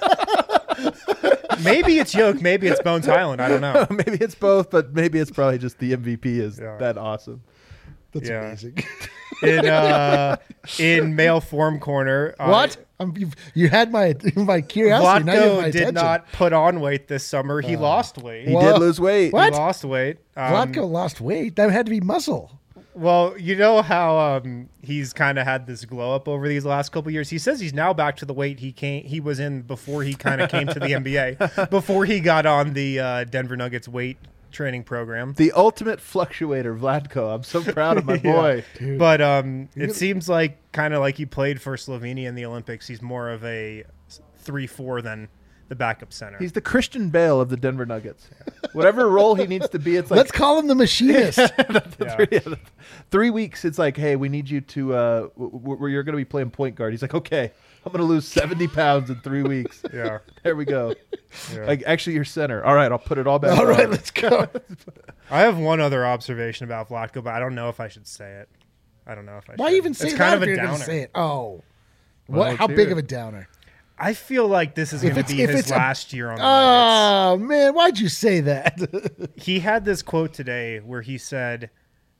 Maybe it's Yoke, maybe it's Bones Hyland. I don't know. Maybe it's both, but maybe it's probably just the M V P is Yeah. that awesome. That's Yeah. amazing. In uh, in male form corner, uh, What? Um, you've, you had my my curiosity. Now you have my Vlatko did attention. not put on weight this summer. He lost weight. He What? did lose weight. What? He lost weight. Um, Vlatko lost weight. That had to be muscle. Well, you know how um, he's kind of had this glow up over these last couple years. He says he's now back to the weight he came he was in before he kind of came to the N B A, before he got on the uh, Denver Nuggets weight training program. The ultimate fluctuator, Vlatko. I'm so proud of my boy. Dude. But um, it seems like kind of like he played for Slovenia in the Olympics. He's more of a three four than the backup center. He's the Christian Bale of the Denver Nuggets. Whatever role he needs to be, it's like Let's call him the machinist. Yeah. three, three weeks. It's like, hey, we need you to. Uh, w- w- you're going to be playing point guard. He's like, okay, I'm going to lose seventy pounds in three weeks. Yeah. There we go. Yeah. Like, actually, you're center. All right, I'll put it all back. All on. right, let's go. I have one other observation about Vlatko, but I don't know if I should say it. I don't know if I should. Why even say it's that kind if of a you're gonna downer. say it? Oh, Well, what? let's How hear big it. of a downer? I feel like this is If going to it's- be if his it's a- last year on the Nuggets. Oh man, why'd you say that? He had this quote today where he said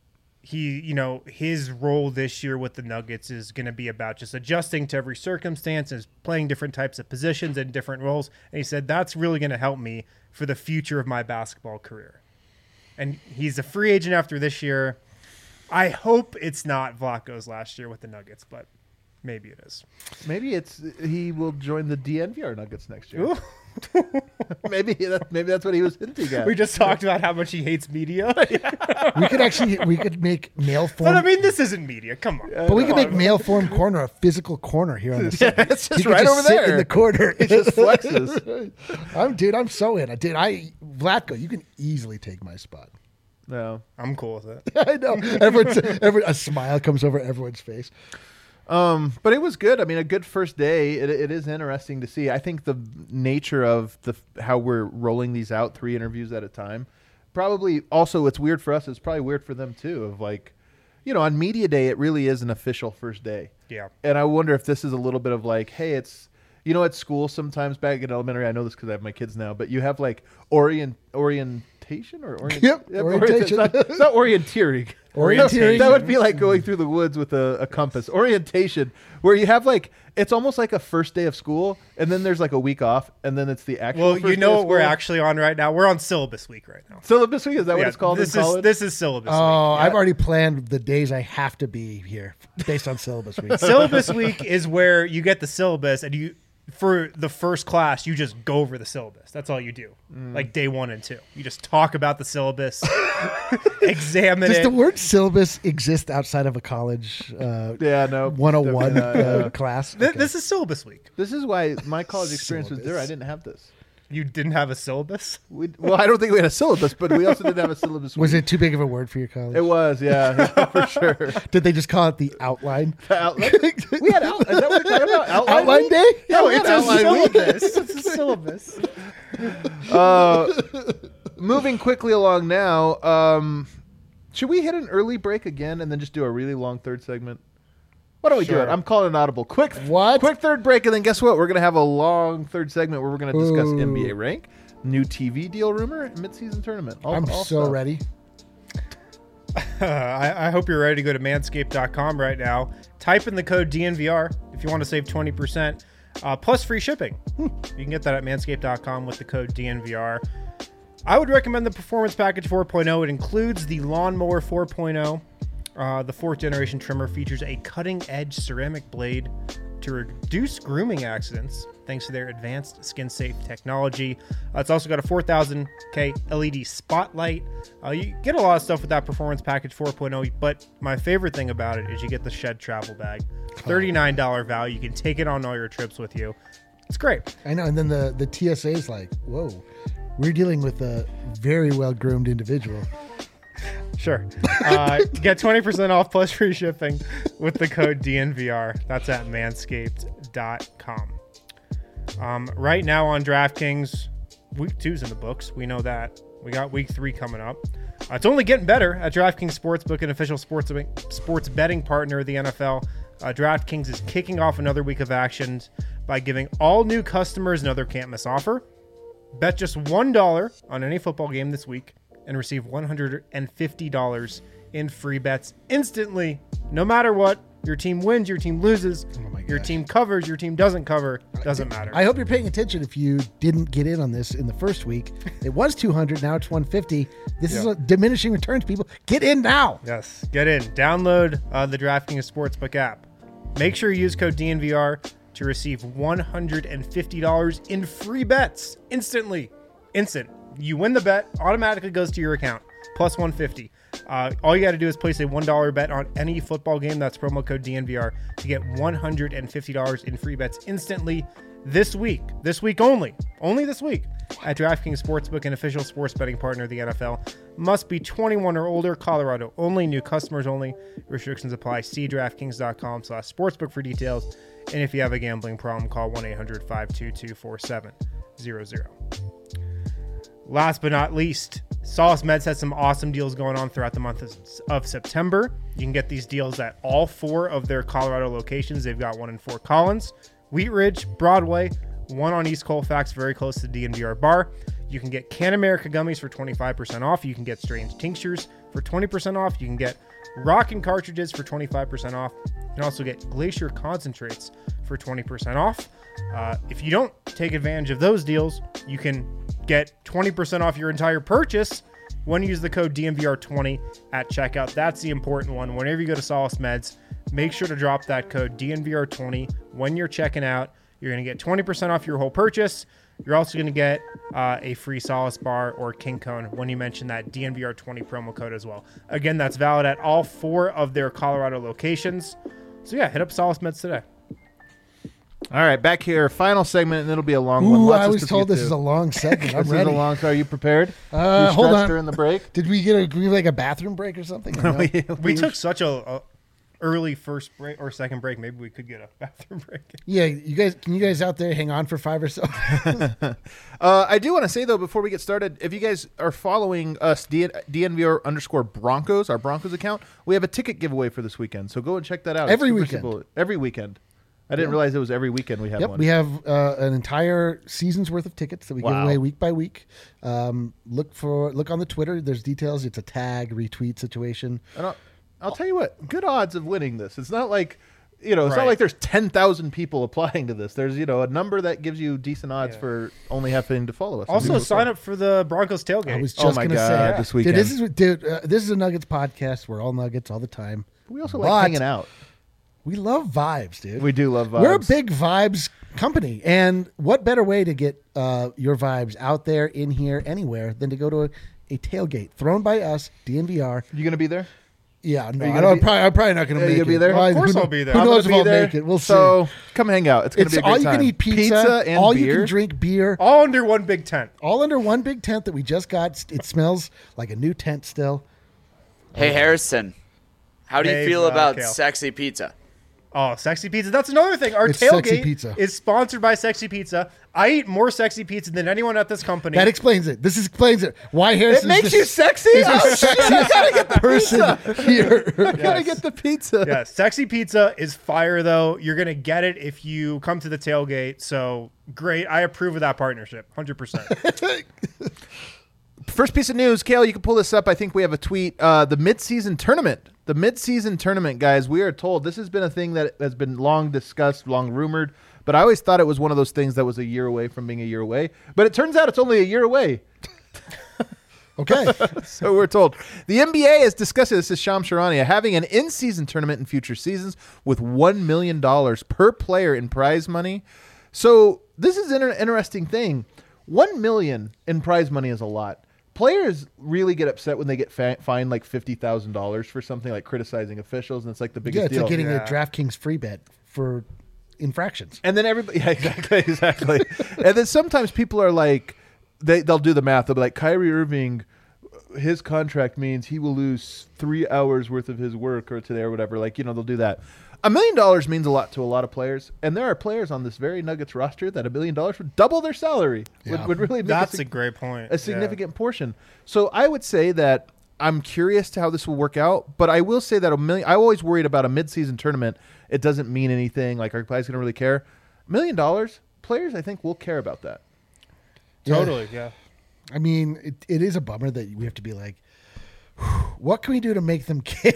he, you know, his role this year with the Nuggets is going to be about just adjusting to every circumstance and playing different types of positions and different roles. And he said, that's really going to help me for the future of my basketball career. And he's a free agent after this year. I hope it's not Vlatko's last year with the Nuggets, but maybe it is. Maybe it's he will join the D N V R Nuggets next year. Ooh. maybe that, maybe that's what he was hinting at. We just talked about how much he hates media. We could actually we could make mail But I form, mean, this isn't media. Come on. but we could Come make on. mail form corner a physical corner here on the Yeah, side. it's just You could right over sit there in the corner. It just flexes. I'm dude. I'm so in. I did. I Vlatko, you can easily take my spot. No. I'm cool with it. I know. Everyone's, everyone, a smile comes over everyone's face. Um, but it was good. I mean, a good first day. It, it is interesting to see. I think the nature of the how we're rolling these out, three interviews at a time, probably also it's weird for us. It's probably weird for them too. Of like, you know, on media day, it really is an official first day. Yeah. And I wonder if this is a little bit of like, hey, it's you know, at school sometimes back in elementary. I know this because I have my kids now, but you have like orient orientation or orient, Yep, yeah, orientation. It's not, it's not orienteering. Orienteering. That would be like going through the woods with a, a compass. Orientation, where you have like it's almost like a first day of school, and then there's like a week off, and then it's the actual. Well, first you day know of what we're school. actually on right now? We're on syllabus week right now. Syllabus week. Is that what Yeah, it's called this in is college? this is syllabus Oh, week. I've already planned the days I have to be here based on syllabus week. Syllabus week is where you get the syllabus and you for the first class you just go over the syllabus. That's all you do. Mm. Like day one and two. You just talk about the syllabus, examine Does it. the word syllabus exist outside of a college uh, yeah, no. one oh one Definitely not, uh, yeah. class? Th- Okay. This is syllabus week. This is why my college experience was there. I Syllabus. didn't have this. You didn't have a syllabus? We, well, I don't think we had a syllabus, but we also didn't have a syllabus. Was week. it too big of a word for your college? It was, yeah, for sure. Did they just call it the outline? Outline? We had out, is that what we're talking about? Outline, Outline week? day? Yeah, we it's had a outline week. syllabus. It's a syllabus. Uh, moving quickly along now, um, should we hit an early break again and then just do a really long third segment? Why don't we do Sure. it? I'm calling an audible. Quick, What? Quick third break, and then guess what? We're gonna have a long third segment where we're gonna discuss Ooh. N B A rank, new T V deal rumor, and midseason tournament. All, I'm all so stuff. ready. Uh, I, I hope you're ready to go to manscaped dot com right now. Type in the code D N V R if you want to save twenty percent uh, plus free shipping. You can get that at manscaped dot com with the code D N V R. I would recommend the Performance Package four point oh. It includes the Lawnmower four point oh. Uh, the fourth generation trimmer features a cutting edge ceramic blade to reduce grooming accidents thanks to their advanced skin safe technology. Uh, it's also got a four thousand K L E D spotlight. Uh, you get a lot of stuff with that Performance Package four point oh, but my favorite thing about it is you get the Shed travel bag. thirty-nine dollars value. You can take it on all your trips with you. It's great. I know. And then the, the T S A is like, whoa, we're dealing with a very well-groomed individual. Sure. Uh, get twenty percent off plus free shipping with the code D N V R. That's at manscaped dot com. Um, right now on DraftKings, week two's in the books. We know that. We got week three coming up. Uh, it's only getting better at DraftKings Sportsbook, an official sports sports betting partner of the N F L. Uh, DraftKings is kicking off another week of action by giving all new customers another can't miss offer. Bet just one dollar on any football game this week and receive one hundred fifty dollars in free bets instantly, no matter what. Your team wins, your team loses, Oh my your gosh. team covers, your team doesn't cover, doesn't matter. I hope you're paying attention if you didn't get in on this in the first week. It was two hundred, now it's one fifty. This is Yeah. a diminishing returns, people. Get in now. Yes, get in. Download uh, the DraftKings Sportsbook app. Make sure you use code D N V R to receive one hundred fifty dollars in free bets instantly. Instant. You win the bet, automatically goes to your account, plus one hundred fifty dollars. Uh, all you got to do is place a one dollar bet on any football game. That's promo code D N V R to get one hundred fifty dollars in free bets instantly this week. This week only. Only this week at DraftKings Sportsbook, an official sports betting partner of the N F L. Must be twenty-one or older. Colorado only. New customers only. Restrictions apply. See DraftKings.com slash sportsbook for details. And if you have a gambling problem, call one eight hundred five two two four seven zero zero. Last but not least, Solace Meds has some awesome deals going on throughout the month of, of September. You can get these deals at all four of their Colorado locations. They've got one in Fort Collins, Wheat Ridge, Broadway, one on East Colfax, very close to the D N V R bar. You can get Can America gummies for twenty-five percent off. You can get Strange tinctures for twenty percent off. You can get Rockin' cartridges for twenty-five percent off. You can also get Glacier concentrates for twenty percent off. Uh, if you don't take advantage of those deals, you can get twenty percent off your entire purchase when you use the code D N V R twenty at checkout. That's the important one. Whenever you go to Solace Meds, make sure to drop that code D N V R twenty when you're checking out. You're going to get twenty percent off your whole purchase. You're also going to get uh, a free Solace bar or King Cone when you mention that D N V R twenty promo code as well. Again, that's valid at all four of their Colorado locations. So yeah, hit up Solace Meds today. All right, back here, final segment, and it'll be a long one. Ooh, Lots I of was stuff to told get this to. is a long segment. I'm This ready. is a long. Are you prepared? Uh, you hold stretched on. during the break. Did we get a we like a bathroom break or something? Or no? we, We took such a, a early first break or second break. Maybe we could get a bathroom break. Yeah, you guys, can you guys out there hang on for five or so? Uh, I do want to say though, before we get started, if you guys are following us, D- DNVR underscore Broncos, our Broncos account, we have a ticket giveaway for this weekend. So go and check that out. Every super weekend. simple. Every weekend. I didn't realize it was every weekend we have Yep, one. we have uh, an entire season's worth of tickets that we give Wow. away week by week. Um, look for look on the Twitter. There's details. It's a tag retweet situation. And I'll, I'll tell you what, good odds of winning this. It's not like, you know, it's Right. not like there's ten thousand people applying to this. There's, you know, a number that gives you decent odds Yeah. for only having to follow us. Also, And sign up for the Broncos tailgate. I was Oh just my gonna God, say this Dude, weekend. this is dude. Uh, this is a Nuggets podcast. We're all Nuggets all the time. We also But like hanging out. We love vibes, dude. We do love vibes. We're a big vibes company, and what better way to get uh, your vibes out there, in here, anywhere, than to go to a, a tailgate thrown by us, D N V R. You going to be there? Yeah, no, you I gonna don't, be- probably, I'm probably not going to Are you make gonna be it. there? Well, Of course who, I'll be there. Who I'm knows if gonna be I'll there. make it? We'll so see. come hang out. It's going to It's be a great all you time. can eat pizza, Pizza and all beer. you can drink beer, all under one big tent. all under one big tent that we just got. It smells like a new tent still. Hey, Harrison, how do you Hey, feel uh, about Kale. sexy pizza? Oh, Sexy Pizza. That's another thing. Our It's Sexy tailgate Pizza. is sponsored by Sexy Pizza. I eat more Sexy Pizza than anyone at this company. That explains it. This explains it. Why Harrison It makes is you the, sexy? is the Oh, shit, I gotta get sexiest the person pizza. here. I gotta Yes. get the pizza. yeah, Sexy Pizza is fire, though. You're going to get it if you come to the tailgate. So great. I approve of that partnership. one hundred percent. First piece of news, Kale, you can pull this up. I think we have a tweet. Uh, the mid-season tournament. The mid-season tournament, guys, we are told this has been a thing that has been long discussed, long rumored, but I always thought it was one of those things that was a year away from being a year away. But it turns out it's only a year away. Okay. So we're told. The N B A is discussing this is Shams Charania having an in-season tournament in future seasons with one million dollars per player in prize money. So this is an inter- interesting thing. one million dollars in prize money is a lot. Players really get upset when they get fa- fined like fifty thousand dollars for something like criticizing officials, and it's like the biggest Yeah, it's deal. like getting Yeah. a DraftKings free bet for infractions. And then everybody, yeah, exactly, exactly. And then sometimes people are like, they they'll do the math. They'll be like, Kyrie Irving, his contract means he will lose three hours worth of his work or today or whatever. Like, you know, they'll do that. A million dollars means a lot to a lot of players, and there are players on this very Nuggets roster that a million dollars would double their salary. Yeah. Would, would really make That's a, a great point. a significant portion. So I would say that I'm curious to how this will work out, but I will say that a million. I always worried about a midseason tournament. It doesn't mean anything. Like, are guys going to really care? A million dollars, players I think will care about that. Yeah. Totally, yeah. I mean, it, it is a bummer that we have to be like, what can we do to make them care?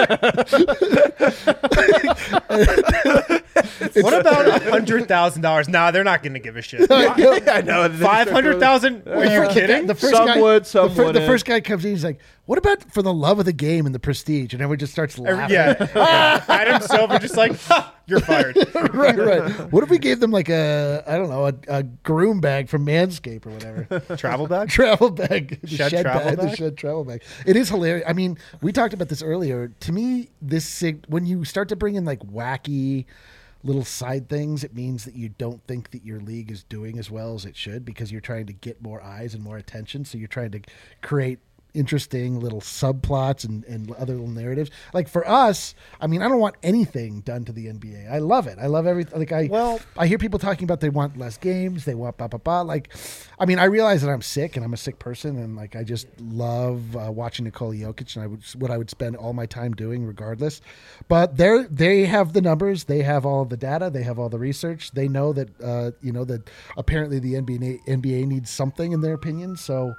What about a hundred thousand dollars? Nah, they're not going to give a shit. I know. Five hundred thousand? Are you Uh, kidding? The first Some guy, would, some the, fir- the wouldn't. first guy comes in, he's like, "What about for the love of the game and the prestige?" And everyone just starts laughing. Yeah. Adam Silver just like, ha, you're fired. right, right. What if we gave them like a, I don't know, a, a groom bag from Manscaped or whatever? Travel bag? Travel bag, the Shed shed travel bag, the bag? shed travel bag. It is hilarious. I mean, we talked about this earlier. To me, this sig- when you start to bring in like wacky little side things, it means that you don't think that your league is doing as well as it should because you're trying to get more eyes and more attention. So you're trying to create interesting little subplots and, and other little narratives. Like for us, I mean, I don't want anything done to the N B A. I love it. I love everything. Like I, Well- I hear people talking about they want less games. They want blah, blah, blah. Like, I mean, I realize that I'm sick and I'm a sick person. And like, I just love uh, watching Nikola Jokic and I would, what I would spend all my time doing regardless. But they're, they have the numbers. They have all of the data. They have all the research. They know that, uh, you know, that apparently the N B A, N B A needs something in their opinion. So,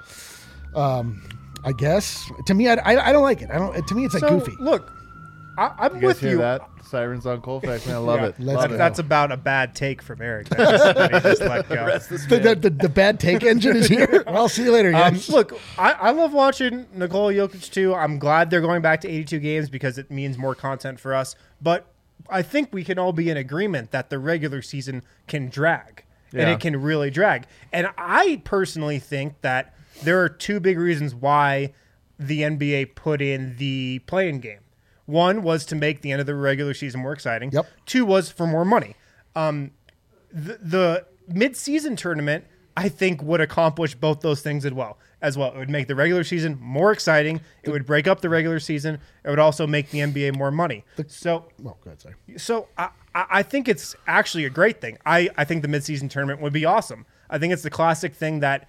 um, I guess to me, I, I, I don't like it. I don't. To me, it's like So, goofy. Look, I, I'm You guys with hear you. that? Sirens on Colfax, man. I love Yeah. it. Let's Love go. it. That's about a bad take from Eric. That just, that he just let go. The, the, the, the bad take engine is here. I'll see you later, Um, guys. look, I, I love watching Nikola Jokic too. I'm glad they're going back to eighty-two games because it means more content for us. But I think we can all be in agreement that the regular season can drag, and Yeah. it can really drag. And I personally think that there are two big reasons why the N B A put in the play-in game. One was to make the end of the regular season more exciting. Yep. Two was for more money. Um, the, the mid-season tournament, I think, would accomplish both those things as well. As well, it would make the regular season more exciting. It would break up the regular season. It would also make the N B A more money. So, Oh, go ahead, sorry. so I, I I think it's actually a great thing. I, I think the mid-season tournament would be awesome. I think it's the classic thing that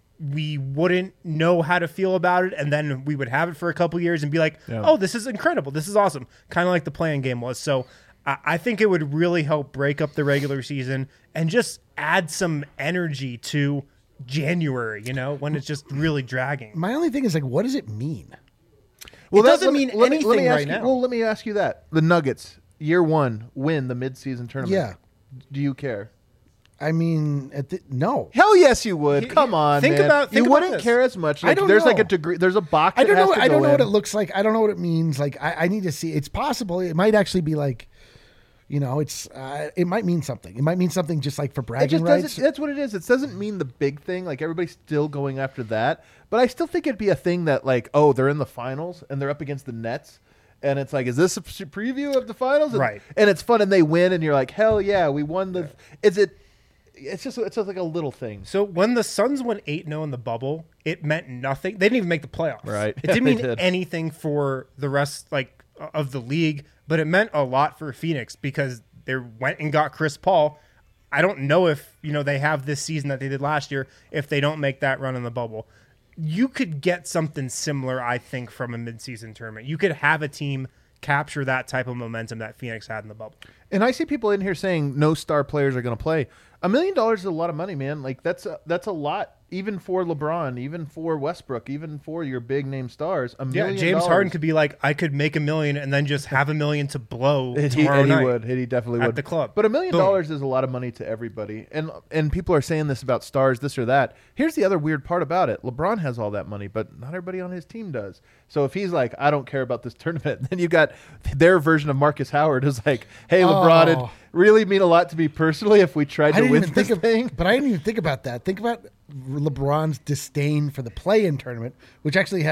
we wouldn't know how to feel about it, and then we would have it for a couple years and be like, Yeah. oh, this is incredible. This is awesome. Kind of like the playing game was. So I, I think it would really help break up the regular season and just add some energy to January, you know, when it's just really dragging. My only thing is like, what does it mean? Well, It that- doesn't let me- mean let me- let me anything ask right you- now. Well, let me ask you that. The Nuggets, year one, win the mid-season tournament. Yeah. Do you care? I mean, at the, no. Hell yes, you would. He- Come on, think man. about- think you about wouldn't this. care as much. I Like, don't there's like a know. degree. There's a box. I don't that has know. to I don't go know what in. it looks like. I don't know what it means. Like, I, I need to see. It's possible. It might actually be like, you know, it's. Uh, it might mean something. It might mean something just like for It bragging just rights. doesn't. That's what it is. It doesn't mean the big thing. Like everybody's still going after that, but I still think it'd be a thing that like, oh, they're in the finals and they're up against the Nets, and it's like, is this a pre- preview of the finals? And, Right. And it's fun, and they win, and you're like, hell yeah, we won the. Is it? It's just it's just like a little thing. So when the Suns went eight and oh in the bubble, it meant nothing. They didn't even make the playoffs. Right. It didn't They mean did. anything for the rest like of the league, but it meant a lot for Phoenix because they went and got Chris Paul. I don't know if, you know, they have this season that they did last year if they don't make that run in the bubble. You could get something similar, I think, from a midseason tournament. You could have a team capture that type of momentum that Phoenix had in the bubble. And I see people in here saying no star players are going to play. A million dollars is a lot of money, man. Like that's a, that's a lot, even for LeBron, even for Westbrook, even for your big name stars. A Yeah, million James dollars. Harden could be like, I could make a million and then just have a million to blow And he, tomorrow and he night. would. And he definitely at would. the club. But a million Boom. dollars is a lot of money to everybody. And and people are saying this about stars, this or that. Here's the other weird part about it. LeBron has all that money, but not everybody on his team does. So if he's like, I don't care about this tournament, then you got their version of Marcus Howard who's like, hey, LeBron, it'd Oh. really mean a lot to me personally if we tried I to didn't win even this think of, thing. but I didn't even think about that. Think about LeBron's disdain for the play-in tournament, which actually has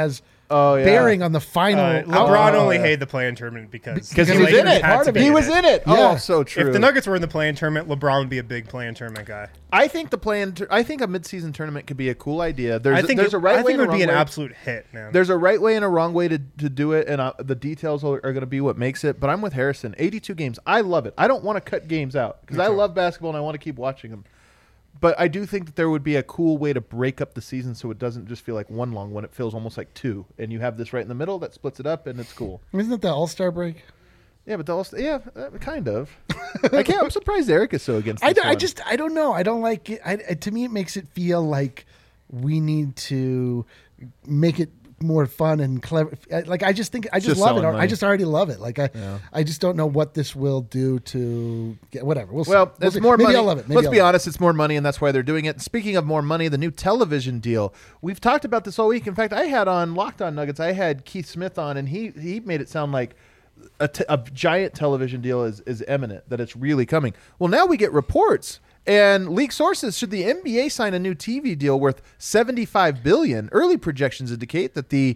Oh, yeah. bearing on the final. Uh, outcome. LeBron Oh, only yeah. hated the play-in tournament because Because he Because was he in was it. part of it. He was in it. Yeah. Oh, so true. If the Nuggets were in the play-in tournament, LeBron would be a big play-in tournament guy. I think the play-in. Tur- I think a midseason tournament could be a cool idea. There's I think there's it, a right I way think and it a would be wrong an way. absolute hit, man. There's a right way and a wrong way to, to do it, and uh, the details are, are going to be what makes it. But I'm with Harrison. eighty-two games. I love it. I don't want to cut games out because I love basketball and I want to keep watching them. But I do think that there would be a cool way to break up the season so it doesn't just feel like one long one. It feels almost like two. And you have this right in the middle that splits it up, and it's cool. Isn't it the All Star break? Yeah, but the all yeah, uh, kind of. I can't. I'm surprised Eric is so against. I, This d- I one. just I don't know. I don't like it. I, I- to me, it makes it feel like we need to make it more fun and clever. I- Like I just think I just, Just love it. selling I money. just already love it. Like I I just don't know what this will do to get whatever. We'll see. Well, We'll it's see. more Maybe money. I'll love it. Maybe Let's I'll be love it. honest, it's more money, and that's why they're doing it. Speaking of more money, the new television deal. We've talked about this all week. In fact, I had on Locked On Nuggets, I had Keith Smith on, and he he made it sound like a, t- a giant television deal is, is imminent, that it's really coming. Well, now we get reports and leak sources. Should the N B A sign a new T V deal worth seventy-five billion dollars? Early projections indicate that the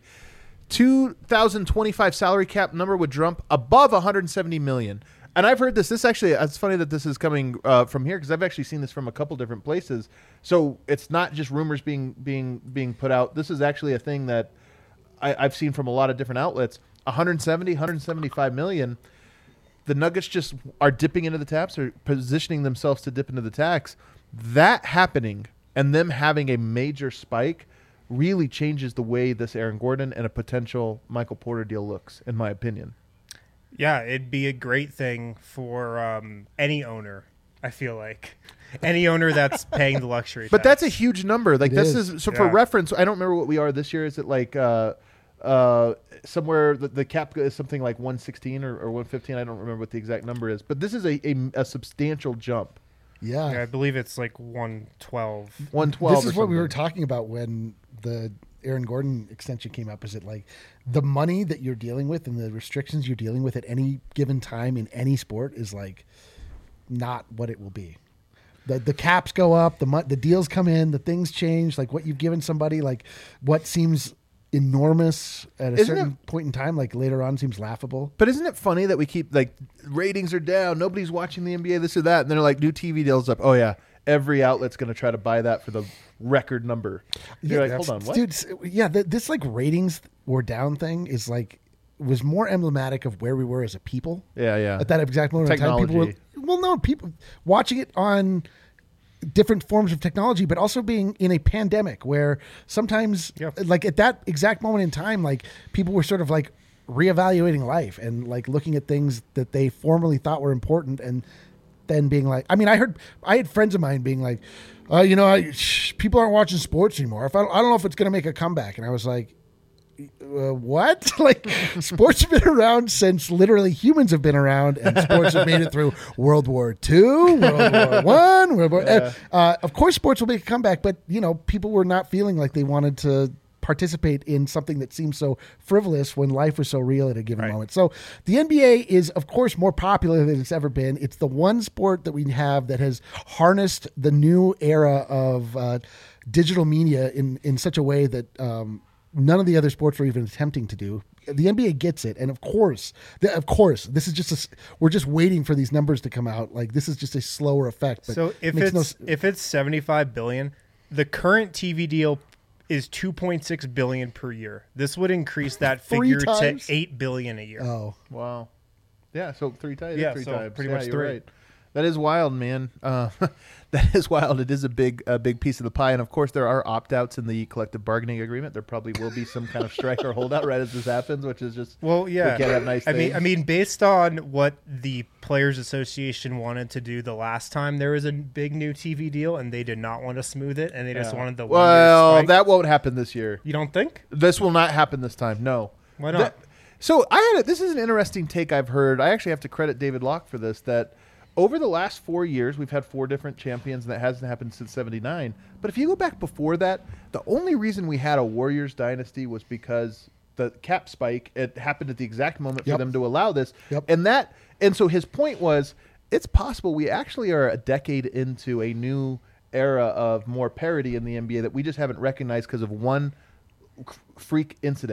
two thousand twenty-five salary cap number would jump above one hundred seventy million dollars. And I've heard this. This actually, it's funny that this is coming uh, from here because I've actually seen this from a couple different places. So it's not just rumors being being being put out. This is actually a thing that I, I've seen from a lot of different outlets. one hundred seventy, one hundred seventy-five million. The Nuggets just are dipping into the taps or positioning themselves to dip into the tax. That happening and them having a major spike really changes the way this Aaron Gordon and a potential Michael Porter deal looks, in my opinion. Yeah, it'd be a great thing for um, any owner, I feel like. Any owner that's paying the luxury But tax. that's a huge number. Like It this is. is, so for Yeah. reference, I don't remember what we are this year. Is it like uh, uh, somewhere the, the cap is something like one sixteen or, or one fifteen? I don't remember what the exact number is. But this is a, a, a substantial jump. Yeah. Yeah, I believe it's like one twelve. one twelve. This is or what we were something. talking about when the Aaron Gordon extension came up. Is it like the money that you're dealing with and the restrictions you're dealing with at any given time in any sport is like not what it will be. The the caps go up, the mo- the deals come in, the things change. Like what you've given somebody, like what seems enormous at a Isn't certain point in time, like later on seems laughable. But isn't it funny that we keep like ratings are down, nobody's watching the N B A, this or that, and they're like new T V deals up. Oh yeah, every outlet's going to try to buy that for the record number. You're like, hold on, what? Dude, s- yeah, th- this like ratings or down thing is like was more emblematic of where we were as a people. Yeah, yeah. At that exact moment in time, people were Technology. well, no, people watching it on different forms of technology, but also being in a pandemic where sometimes, Yeah. like at that exact moment in time, like people were sort of like reevaluating life and like looking at things that they formerly thought were important and then being like, I mean, I heard, I had friends of mine being like, uh, you know, I, shh, people aren't watching sports anymore. If I, I don't know if it's going to make a comeback. And I was like, uh, what? Like sports have been around since literally humans have been around, and sports have made it through World War Two, World War One, World War. Uh, uh, of course, sports will make a comeback, but you know, people were not feeling like they wanted to participate in something that seemed so frivolous when life was so real at a given Right. moment. So the N B A is, of course, more popular than it's ever been. It's the one sport that we have that has harnessed the new era of uh, digital media in in such a way that. Um, None of the other sports are even attempting to do. The N B A gets it, and of course, the, of course, this is just a, s- we're just waiting for these numbers to come out. Like this is just a slower effect. But So if makes it's no s- if it's seventy-five billion, the current T V deal is two point six billion per year. This would increase that Three figure times? to eight billion a year. oh, Wow. Yeah, so three times. Yeah, three so times. pretty Yeah, much you're three. right. That is wild, man. Uh, that is wild. It is a big, a big piece of the pie, and of course, there are opt-outs in the collective bargaining agreement. There probably will be some kind of strike or holdout right as this happens, which is just Well, yeah. We can't have nice I mean, things. I mean, based on what the Players Association wanted to do the last time there was a big new T V deal, and they did not want to smooth it, and they just Yeah. wanted the well, one-year spike. that won't happen this year. You don't think? This will not happen this time. No. Why not? That- so I had a, this is an interesting take I've heard. I actually have to credit David Locke for this. That over the last four years, we've had four different champions, and that hasn't happened since seventy-nine. But if you go back before that, the only reason we had a Warriors dynasty was because the cap spike. It happened at the exact moment for Yep. them to allow this, Yep. and that. And so his point was, it's possible we actually are a decade into a new era of more parity in the N B A that we just haven't recognized because of one freak incident.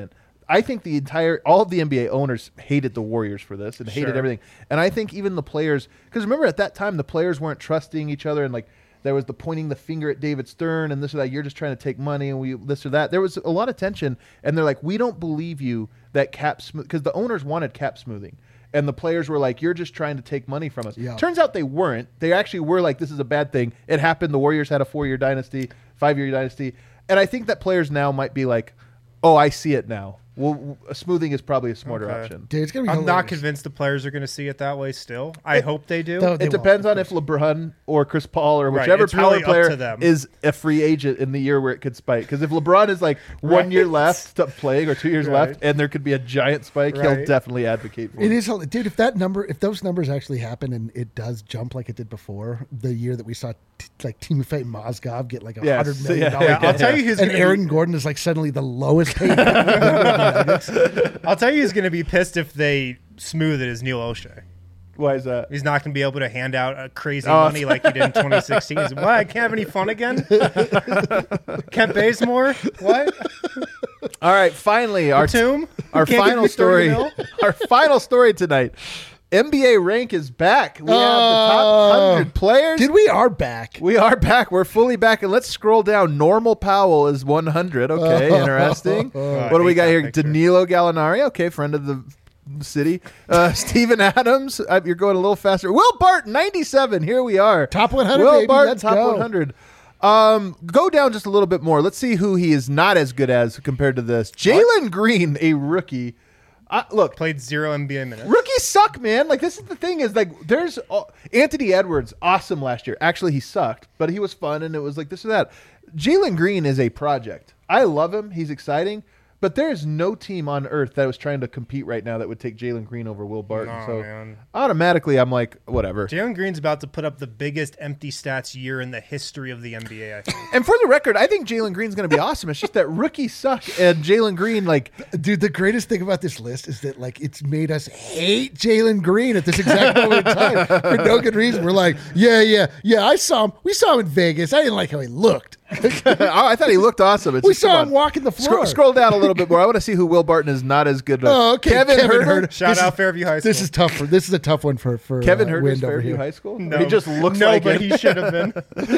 I think the entire all of the N B A owners hated the Warriors for this and hated Sure. everything. And I think even the players, because remember at that time the players weren't trusting each other, and like there was the pointing the finger at David Stern and this or that. You're just trying to take money and we this or that. There was a lot of tension, and they're like, we don't believe you that cap smooth, because the owners wanted cap smoothing. And the players were like, you're just trying to take money from us. Yeah. Turns out they weren't. They actually were like, this is a bad thing. It happened. The Warriors had a four-year dynasty, five-year dynasty. And I think that players now might be like, oh, I see it now. Well, smoothing is probably a smarter Okay. option. Dude, it's gonna be I'm not hilarious. convinced the players are going to see it that way still. I hope they do. Though- They It won't, depends of on if LeBron or Chris Paul or Right, whichever it's power really up player to them. is a free agent in the year where it could spike. Because if LeBron is like one year Right. left to playing or two years Right. left, and there could be a giant spike, he'll Right. definitely advocate for It it. is, hel- dude. If that number, if those numbers actually happen and it does jump like it did before, the year that we saw t- like Timofey Mozgov get like a Yes, hundred million yeah, dollars, yeah, I'll tell you who's and going Aaron to Gordon is like suddenly the lowest paid. member of the Nuggets. be, I'll tell you who's going to be pissed if they smooth it is Neil O'Shea. Why is that? He's not going to be able to hand out a crazy Oh. money like he did in twenty sixteen. He's, what? I can't have any fun again? Kent Bazemore? What? All right, finally, our Tomb? our Can't give final me thirty story. mil? Our final story tonight. N B A rank is back. We have the top Oh. one hundred players. Dude, we are back. We are back. We're fully back. And let's scroll down. Normal Powell is one hundred. Okay, interesting. Oh, I What do we hate got that here? picture. Danilo Gallinari. Okay, friend of the city. Uh, Steven Adams. Uh, you're going a little faster. Will Barton, ninety-seven. Here we are. Top one hundred, Will baby. Barton, Let's top go. one hundred. Um, go down just a little bit more. Let's see who he is not as good as compared to this. Jalen Green, a rookie. Uh, look, Played zero N B A minutes. rookies suck, man. Like, this is the thing is, like, there's uh, Anthony Edwards, awesome last year. Actually, he sucked, but he was fun, and it was like this or that. Jalen Green is a project. I love him. He's exciting, but there's no team on earth that was trying to compete right now that would take Jalen Green over Will Barton. No, so man. automatically, I'm like, whatever. Jalen Green's about to put up the biggest empty stats year in the history of the N B A, I think. And for the record, I think Jalen Green's going to be awesome. It's just that rookies suck, and Jalen Green, like, Dude, the greatest thing about this list is that like it's made us hate Jalen Green at this exact moment in time for no good reason. We're like, yeah, yeah, yeah. I saw him. We saw him in Vegas. I didn't like how he looked. I thought he looked awesome. It's We just, come saw on. him walking the floor. Scroll, scroll down a little bit more. I want to see who Will Barton is not as good. Oh, okay. Kevin, Kevin Herter. Herter. Shout This out is- Fairview High School. This is tough for. This is a tough one for for Kevin uh, Herter's Wind over Fairview here. High School. No, he just looks no, like but it. he should have been.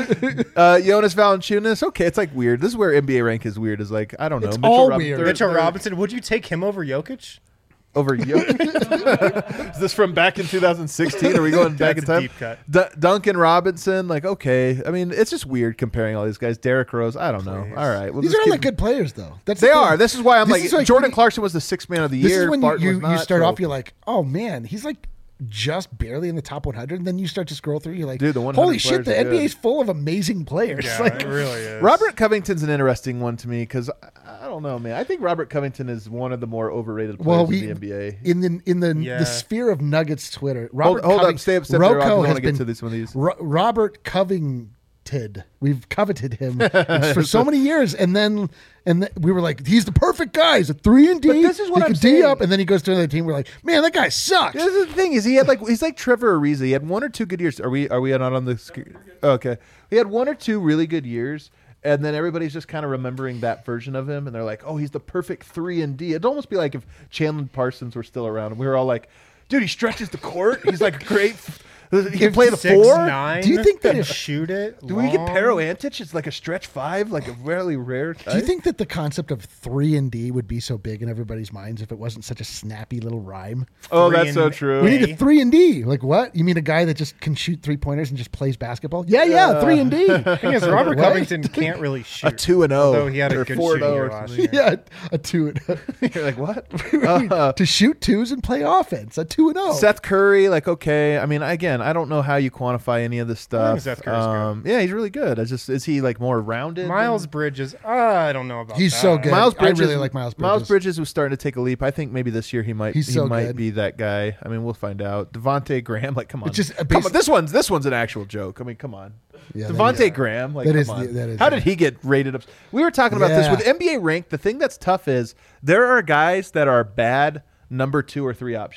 Uh, Jonas Valanciunas. Okay, it's like weird. This is where N B A rank is weird. Is like I don't know. It's Mitchell all Rob- weird. third- Mitchell third Robinson, would you take him over Jokic? over Jokic. Is this from back in two thousand sixteen? Are we going back in That's a time? deep cut. D- Duncan Robinson. Like okay. I mean, it's just weird comparing all these guys. Derrick Rose. I don't know. Please. All right. We'll These just are all keep- like good players, though. That's the They thing. are. This is why I'm This like, is like Jordan when you- Clarkson was the sixth man of the This year. is when Barton you, was you, not, you start so- off, you're like, oh man, he's like just barely in the top one hundred. And then you start to scroll through, you're like, Dude, the one hundred holy shit, players the are N B A good. is full of amazing players. Yeah, Like, it really is. Robert Covington's an interesting one to me because I, I don't know, man. I think Robert Covington is one of the more overrated players well, we in the N B A. in the in the Yeah. the sphere of Nuggets Twitter. Hold, Robert hold Coving- up, stay up, step there. Rob, 'cause I Rocco want has to get been to this one of these. Ro- Robert Covington. We've coveted him for so many years, and then and th- we were like, he's the perfect guy. He's a three and D. But this is what he I'm can D saying. up, and then he goes to another team. We're like, man, that guy sucks. This is the thing is he had like he's like Trevor Ariza. He had one or two good years. Are we are we not on the? sc- Okay, he had one or two really good years, and then everybody's just kind of remembering that version of him, and they're like, oh, he's the perfect three and D. It'd almost be like if Chandler Parsons were still around, and we were all like, dude, he stretches the court. He's like great. He can play the Six, four. Nine, Do you think that and if- shoot it? Do we get long? Pero Antich? It's like a stretch five, like a really rare type. Do you think that the concept of three and D would be so big in everybody's minds if it wasn't such a snappy little rhyme? Oh, Three that's so and true. We need A? a three and D. Like what? You mean a guy that just can shoot three pointers and just plays basketball? Yeah, yeah, three and D. The thing is, Robert What? Covington can't really shoot. a two and zero. Although he had a or good four and shooting oh year or last something. year. Yeah, a two and You're like what? Uh, to shoot twos and play offense. A two and oh. Seth Curry, like okay. I mean, again, I don't know how you quantify any of this stuff. Seth Curry's good. um, yeah, he's really good. It's just is he like more rounded? Miles than- Bridges, uh, I don't know about He's that. so good. Miles I Bridges. really like Miles Miles Bridges. Bridges was starting to take a leap. I think maybe this year he might. He's he so might good. be that guy. I mean, we'll find out. Devontae Graham, like, come on, It's just a come basi- on. This one's this one's an actual joke. I mean, come on. Yeah, that Devontae is- Graham, like, that come is on. the- that is How the- did he get rated up? We were talking about this Yeah. with N B A rank. The thing that's tough is there are guys that are bad number two or three options.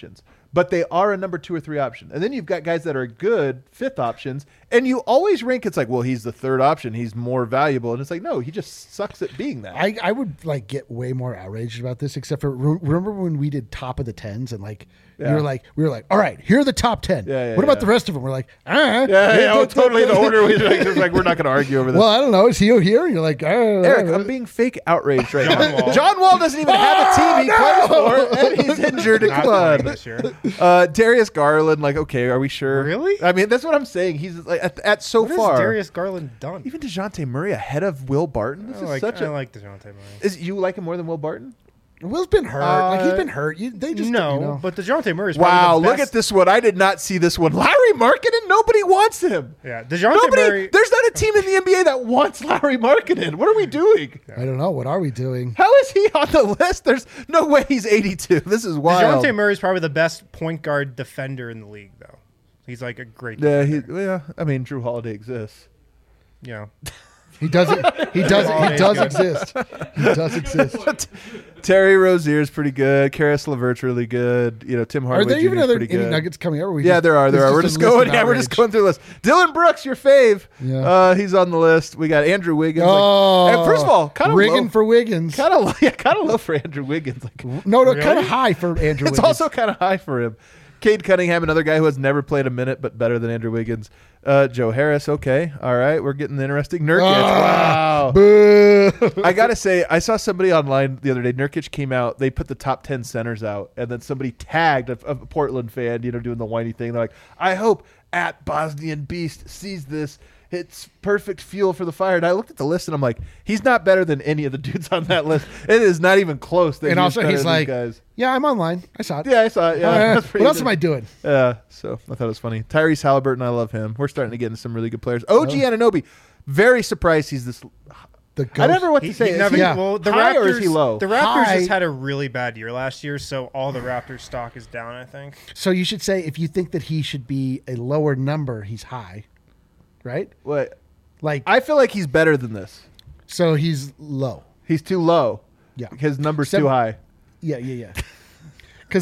but they are a number two or three option. And then you've got guys that are good fifth options, and you always rank. It's like, well, he's the third option. He's more valuable, and it's like, no, he just sucks at being that. I, I would like get way more outraged about this, except for re- remember when we did top of the tens and like Yeah. we were like we were like, all right, here are the top ten. Yeah, yeah, what about yeah. the rest of them? We're like, ah, yeah, yeah, oh, totally. The order we like, just like we're not going to argue over this. Well, I don't know. Is he here? And you're like, ah, Eric, I'm being fake outraged right John now. Wall. John Wall doesn't even have a team he plays for, and he's injured at Not playing club. this year. Uh, Darius Garland, like, okay, are we sure? Really? I mean, that's what I'm saying. He's like at, at so What has far. Darius Garland done? Even DeJounte Murray ahead of Will Barton. This I is like, such I a. like DeJounte Murray. Is you like him more than Will Barton? Will's been hurt. like he's Uh, been hurt. You, they just no, you know. but DeJounte Murray is Wow, probably the look best. at this one. I did not see this one. Larry Markkinen, nobody wants him. Yeah, DeJounte Nobody. Murray. There's not a team in the N B A that wants Larry Markkinen. What are we doing? I don't know. What are we doing? How is he on the list? There's no way he's eighty-two. This is wild. DeJounte Murray is probably the best point guard defender in the league, though. He's like a great. Yeah, he, defender. yeah. I mean, Drew Holiday exists. Yeah. He doesn't. He does. Oh, He he's does good. exist. He does exist. Terry Rozier's pretty good. Karis LeVert's really good. You know, Tim Are Hardaway there even Junior's other pretty any good. Nuggets coming up? Or we Yeah, just- there are. this There is are. We're just just a list going. of Yeah, we're just outrage? going through the list. Dylan Brooks, your fave. Yeah. Uh, he's on the list. We got Andrew Wiggins. like- Oh, and first of all, kind of rigging low, for Wiggins. kind of yeah, kind of low for Andrew Wiggins. Like, No, no, Really? kind of high for Andrew. it's Wiggins. also kind of high for him. Cade Cunningham, another guy who has never played a minute, but better than Andrew Wiggins. Uh, Joe Harris, okay, all right, we're getting interesting. Nurkic, wow. Ah, Boo. I gotta say, I saw somebody online the other day. Nurkic came out. They put the top ten centers out, and then somebody tagged a, a Portland fan, you know, doing the whiny thing. They're like, "I hope at Bosnian Beast sees this. It's perfect fuel for the fire." And I looked at the list, and I'm like, "He's not better than any of the dudes on that list. It is not even close." That And he's also, better he's than these like, guys. "Yeah, I'm online. I saw it. Yeah, I saw it. Yeah, Uh, that's what pretty else good. am I doing?" Yeah, so I thought it was funny. Tyrese Halliburton, I love him. We're starting to get into some really good players. O G Anunoby, very surprised he's this. The I ghost- never know what to He, say. he Is never, he Yeah. Well, the high Raptors, or is he low? The Raptors High. just had a really bad year last year, so all the Raptors stock is down. I think. So you should say if you think that he should be a lower number, he's high, right? What? Like I feel like he's better than this. so he's low. He's too low. Yeah. His number's Seven- too high. Yeah, yeah, yeah. Because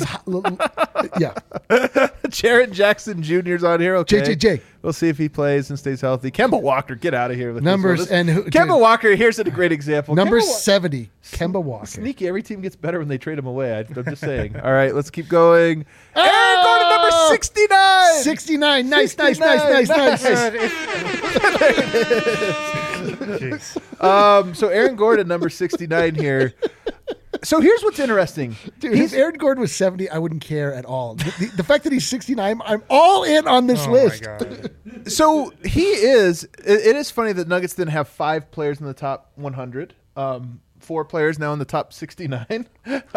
yeah, Jared Jackson Junior's on here. Okay. J J J. We'll see if he plays and stays healthy. Kemba Walker, get out of here with this Numbers one. This- and who- Kemba dude. Walker. Here's a great example. number Kemba Wa- seventy, Kemba Walker. Sneaky. Every team gets better when they trade him away. I, I'm just saying. All right, let's keep going. Oh! Aaron Gordon, number sixty-nine. sixty-nine. Nice, nice, nice, nice, nice. Jeez. Um, so Aaron Gordon, number sixty-nine here. So here's what's interesting. Dude, if Aaron Gordon was seventy, I wouldn't care at all. The, the, the fact that he's sixty-nine, I'm all in on this Oh list. my god. So he is. It, it is funny that Nuggets didn't have five players in the top one hundred. Um, four players now in the top sixty-nine.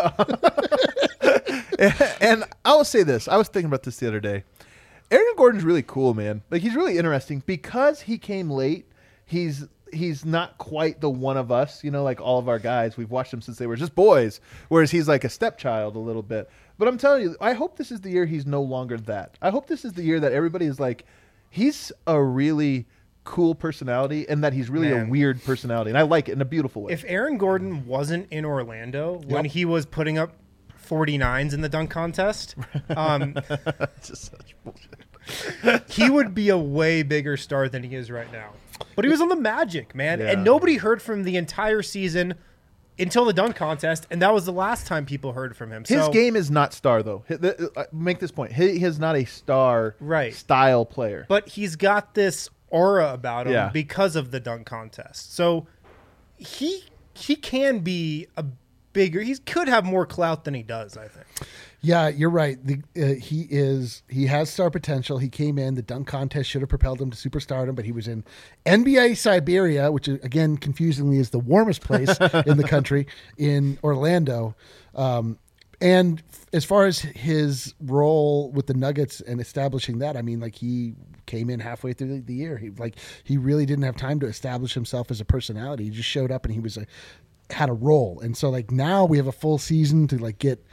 And I will say this. I was thinking about this the other day. Aaron Gordon's really cool, man. Like, he's really interesting because he came late. He's he's not quite the one of us, you know, like all of our guys. We've watched him since they were just boys, whereas he's like a stepchild a little bit. But I'm telling you, I hope this is the year he's no longer that. I hope this is the year that everybody is like, he's a really cool personality and that he's really Man. a weird personality. And I like it in a beautiful way. If Aaron Gordon wasn't in Orlando when Yep. he was putting up forty-nines in the dunk contest, um, It's just such bullshit. he would be a way bigger star than he is right now. But he was on the Magic, man, Yeah. and nobody heard from him the entire season until the dunk contest, and that was the last time people heard from him. His so, game is not star, though. Hi- the- uh, Make this point. He he is not a star Right. style player. but he's got this aura about him Yeah. because of the dunk contest. So he he can be a bigger. He could have more clout than he does, I think. Yeah, you're right. The, uh, he is. He has star potential. He came in. The dunk contest should have propelled him to superstardom, but he was in N B A Siberia, which is, again, confusingly, is the warmest place in the country, in Orlando. Um, and f- as far as his role with the Nuggets and establishing that, I mean, like he came in halfway through the, the year. He like he really didn't have time to establish himself as a personality. He just showed up and he was a had a role. And so like now we have a full season to like get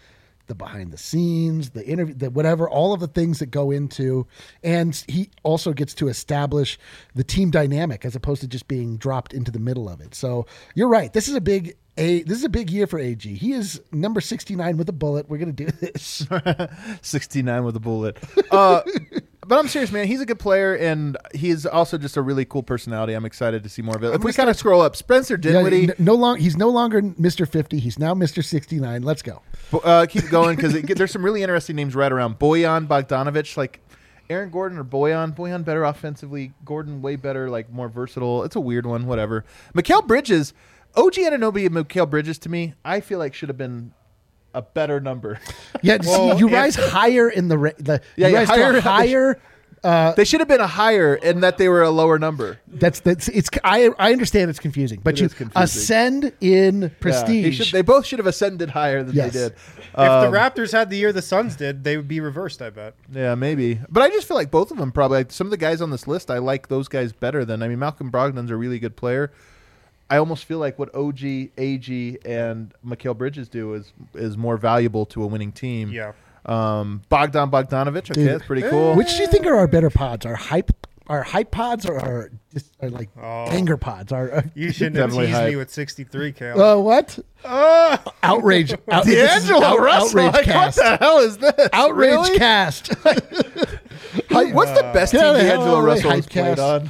the behind the scenes, the interview, the whatever, all of the things that go into, and he also gets to establish the team dynamic as opposed to just being dropped into the middle of it. So you're right. This is a big a this is a big year for A G. He is number sixty-nine with a bullet. We're gonna do this. sixty-nine with a bullet. Uh, but I'm serious, man. He's a good player, and he's also just a really cool personality. I'm excited to see more of it. If we kind of scroll up, Spencer Dinwiddie. Yeah, no long. He's no longer Mister fifty. He's now Mister sixty-nine. Let's go. Uh, keep going because there's some really interesting names right around. Bojan Bogdanovic, like Aaron Gordon or Bojan. Bojan better offensively. Gordon way better, like more versatile. It's a weird one. Whatever. Mikal Bridges. O G Anunoby and Mikal Bridges, to me, I feel like should have been a better number. Yeah, Well, see, you if- rise higher in the, ra- the Yeah, you yeah, rise to higher- a higher. Uh, They should have been a higher, and that they were a lower number. that's that's it's. I I understand it's confusing, but It you is confusing. ascend in Yeah, he prestige. should- they both should have ascended higher than Yes. they did. If Um, the Raptors had the year the Suns did, they would be reversed, I bet. Yeah, maybe. But I just feel like both of them probably. Like, some of the guys on this list, I like those guys better than. I mean, Malcolm Brogdon's a really good player. I almost feel like what O G, A G, and Mikal Bridges do is is more valuable to a winning team. Yeah. Um, Bogdan Bogdanovic, okay, Dude. that's pretty cool. Which do you think are our better pods? Our hype, our hype pods, or our just our like Oh. anger pods? Our uh, You shouldn't have Definitely teased hype. me with sixty-three, Kale. uh, what? Ah! Outrage! Out, this is D'Angelo out- Russell, outrage like, cast. what the hell is this? Outrage Really? cast. Who- What's the best Get team out of here, D'Angelo outrage Russell has hype played cast. on?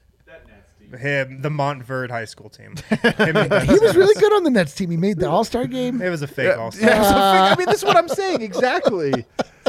Him, the Montverde High School team. Him and Ben He was Simmons. really good on the Nets team. He made the All Star game. It was a fake all Yeah, so fig- I mean, this is what I'm saying exactly.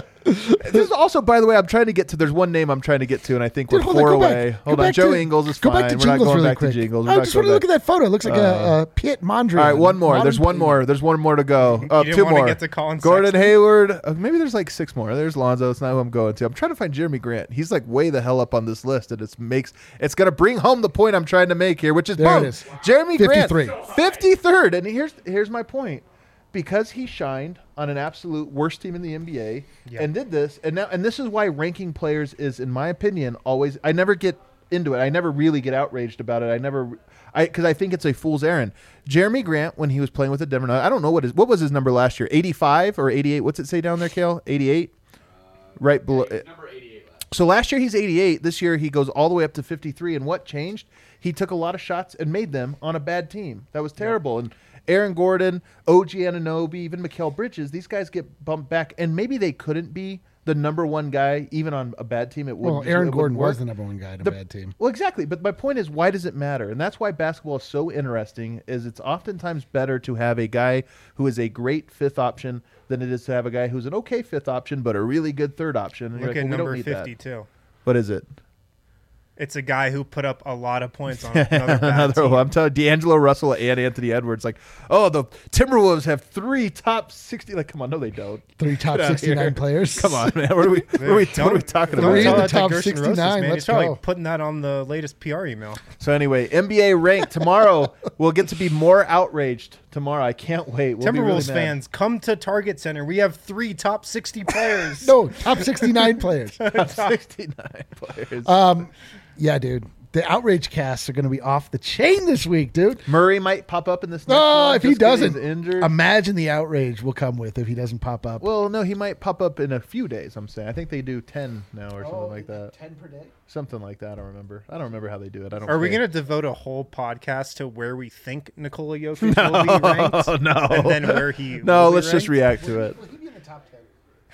This is also, by the way, I'm trying to get to. There's one name I'm trying to get to, and I think Dude, we're hold on, four go away. back. Hold Go on, back Joe to- Ingles is Go fine. back to We're not Jingles going really back quick. to Jingles. We're I not just going want to look back. at that photo. It looks like a, a Piet Mondrian. All right, one more. Modern There's one painting. more. There's one more to go. Uh, didn't two wanna more. get to Colin Gordon Sexton? Hayward. Uh, maybe there's like six more. There's Lonzo. It's not who I'm going to. I'm trying to find Jeremy Grant. He's like way the hell up on this list, and it makes it's going to bring home the point I'm trying to make here, which is There it boom. is. Jeremy fifty-three. Grant, fifty-third. And here's here's my point. Because he shined on an absolute worst team in the N B A Yeah. and did this, and now and this is why ranking players is, in my opinion, always. I never get into it. I never really get outraged about it. I never, I because I think it's a fool's errand. Jeremy Grant, when he was playing with the Denver Nuggets, I don't know what his what was his number last year, eighty-five or eighty-eight. What's it say down there, Kale? eighty-eight, right below. Number eighty-eight last. So last year he's eighty-eight. This year he goes all the way up to fifty-three. And what changed? He took a lot of shots and made them on a bad team. That was terrible. And Aaron Gordon, O G Anunoby, even Mikal Bridges, these guys get bumped back. And maybe they couldn't be the number one guy even on a bad team. It Well, wouldn't. Aaron it Gordon wouldn't was work. the number one guy in a The- bad team. Well, exactly. But my point is, why does it matter? And that's why basketball is so interesting. Is it's oftentimes better to have a guy who is a great fifth option than it is to have a guy who's an okay fifth option but a really good third option. And you're Look like, at well, we don't number need that. fifty-two. What is it? It's a guy who put up a lot of points on another bad Another team. one. I'm telling you, D'Angelo Russell and Anthony Edwards, like, oh, the Timberwolves have three top sixty. Like, come on, no, they don't. Three top Get outta sixty-nine here. players. Come on, man. What are we? What are we, what are we talking Don't about? Three tell in the that to top Gerson Rosas, sixty-nine. man. Let's He's probably go. putting that on the latest P R email. So anyway, N B A ranked tomorrow. We'll get to be more outraged tomorrow. I can't wait. We'll be really Timberwolves mad. fans, come to Target Center. We have three top sixty players. No, top sixty-nine players. Top sixty-nine players. Um, yeah, dude. The outrage casts are going to be off the chain this week, dude. Murray might pop up in this. Next Oh, one if he just 'cause doesn't, he's injured. imagine the outrage will come with if he doesn't pop up. well, no, he might pop up in a few days. I'm saying. I think they do ten now or Oh, something like that. ten per day. Something like that. I don't remember. I don't remember how they do it. I don't. Are we care. going to devote a whole podcast to where we think Nikola Jokic will be ranked? Oh no! And then where he No, will be let's just ranked? react to it. Will he be in the top ten?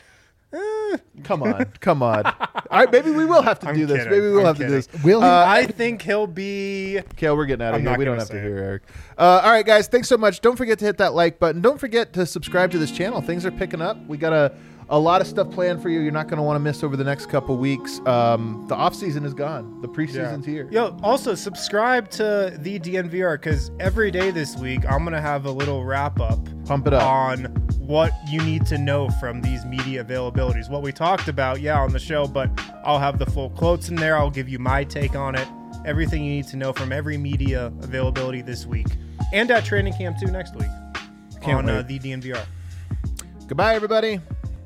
Come on, come on. All right, maybe we will have to I'm do this. kidding. Maybe we'll I'm have to do kidding. this. Will he? Uh, I think he'll be. Kale, we're getting out of I'm here. not We don't gonna have to say hear it. Eric. Uh, all right, guys. Thanks so much. Don't forget to hit that like button. Don't forget to subscribe to this channel. Things are picking up. We got a, a lot of stuff planned for you. You're not going to want to miss over the next couple weeks. Um, the off season is gone. The preseason's here. Yo, also subscribe to the D N V R because every day this week I'm gonna have a little wrap up Pump it up. on what you need to know from these media availabilities. What we talked about, yeah, on the show, but I'll have the full quotes in there. I'll give you my take on it. Everything you need to know from every media availability this week, and at training camp too next week Can't on uh, wait. the D N V R. Goodbye, everybody.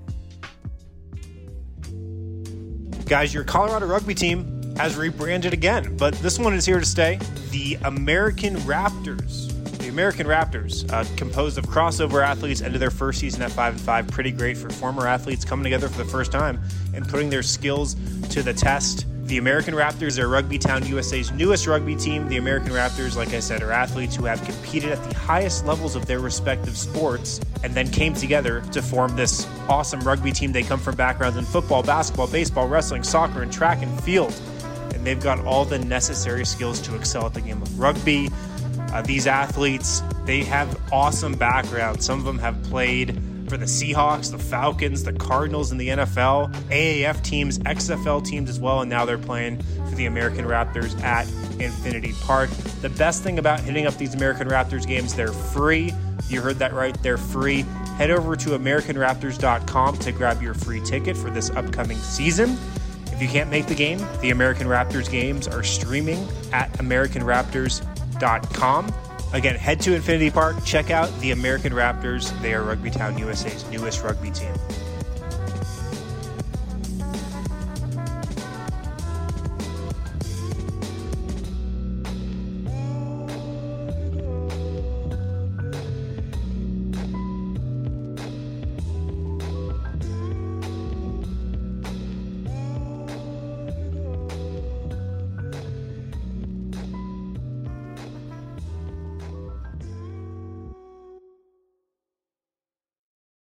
Guys, your Colorado rugby team has rebranded again, but this one is here to stay. The American Raptors. The American Raptors, uh, composed of crossover athletes, ended their first season at five and five. Pretty great for former athletes coming together for the first time and putting their skills to the test. The American Raptors are Rugby Town U S A's newest rugby team. The American Raptors, like I said, are athletes who have competed at the highest levels of their respective sports and then came together to form this awesome rugby team. They come from backgrounds in football, basketball, baseball, wrestling, soccer, and track and field. And they've got all the necessary skills to excel at the game of rugby. Uh, these athletes, they have awesome backgrounds. Some of them have played for the Seahawks, the Falcons, the Cardinals in the N F L, A A F teams, X F L teams as well, and now they're playing for the American Raptors at Infinity Park. The best thing about hitting up these American Raptors games, they're free. You heard that right, they're free. Head over to American Raptors dot com to grab your free ticket for this upcoming season. If you can't make the game, the American Raptors games are streaming at American Raptors dot com. Again, head to Infinity Park, check out the American Raptors. They are Rugby Town U S A's newest rugby team.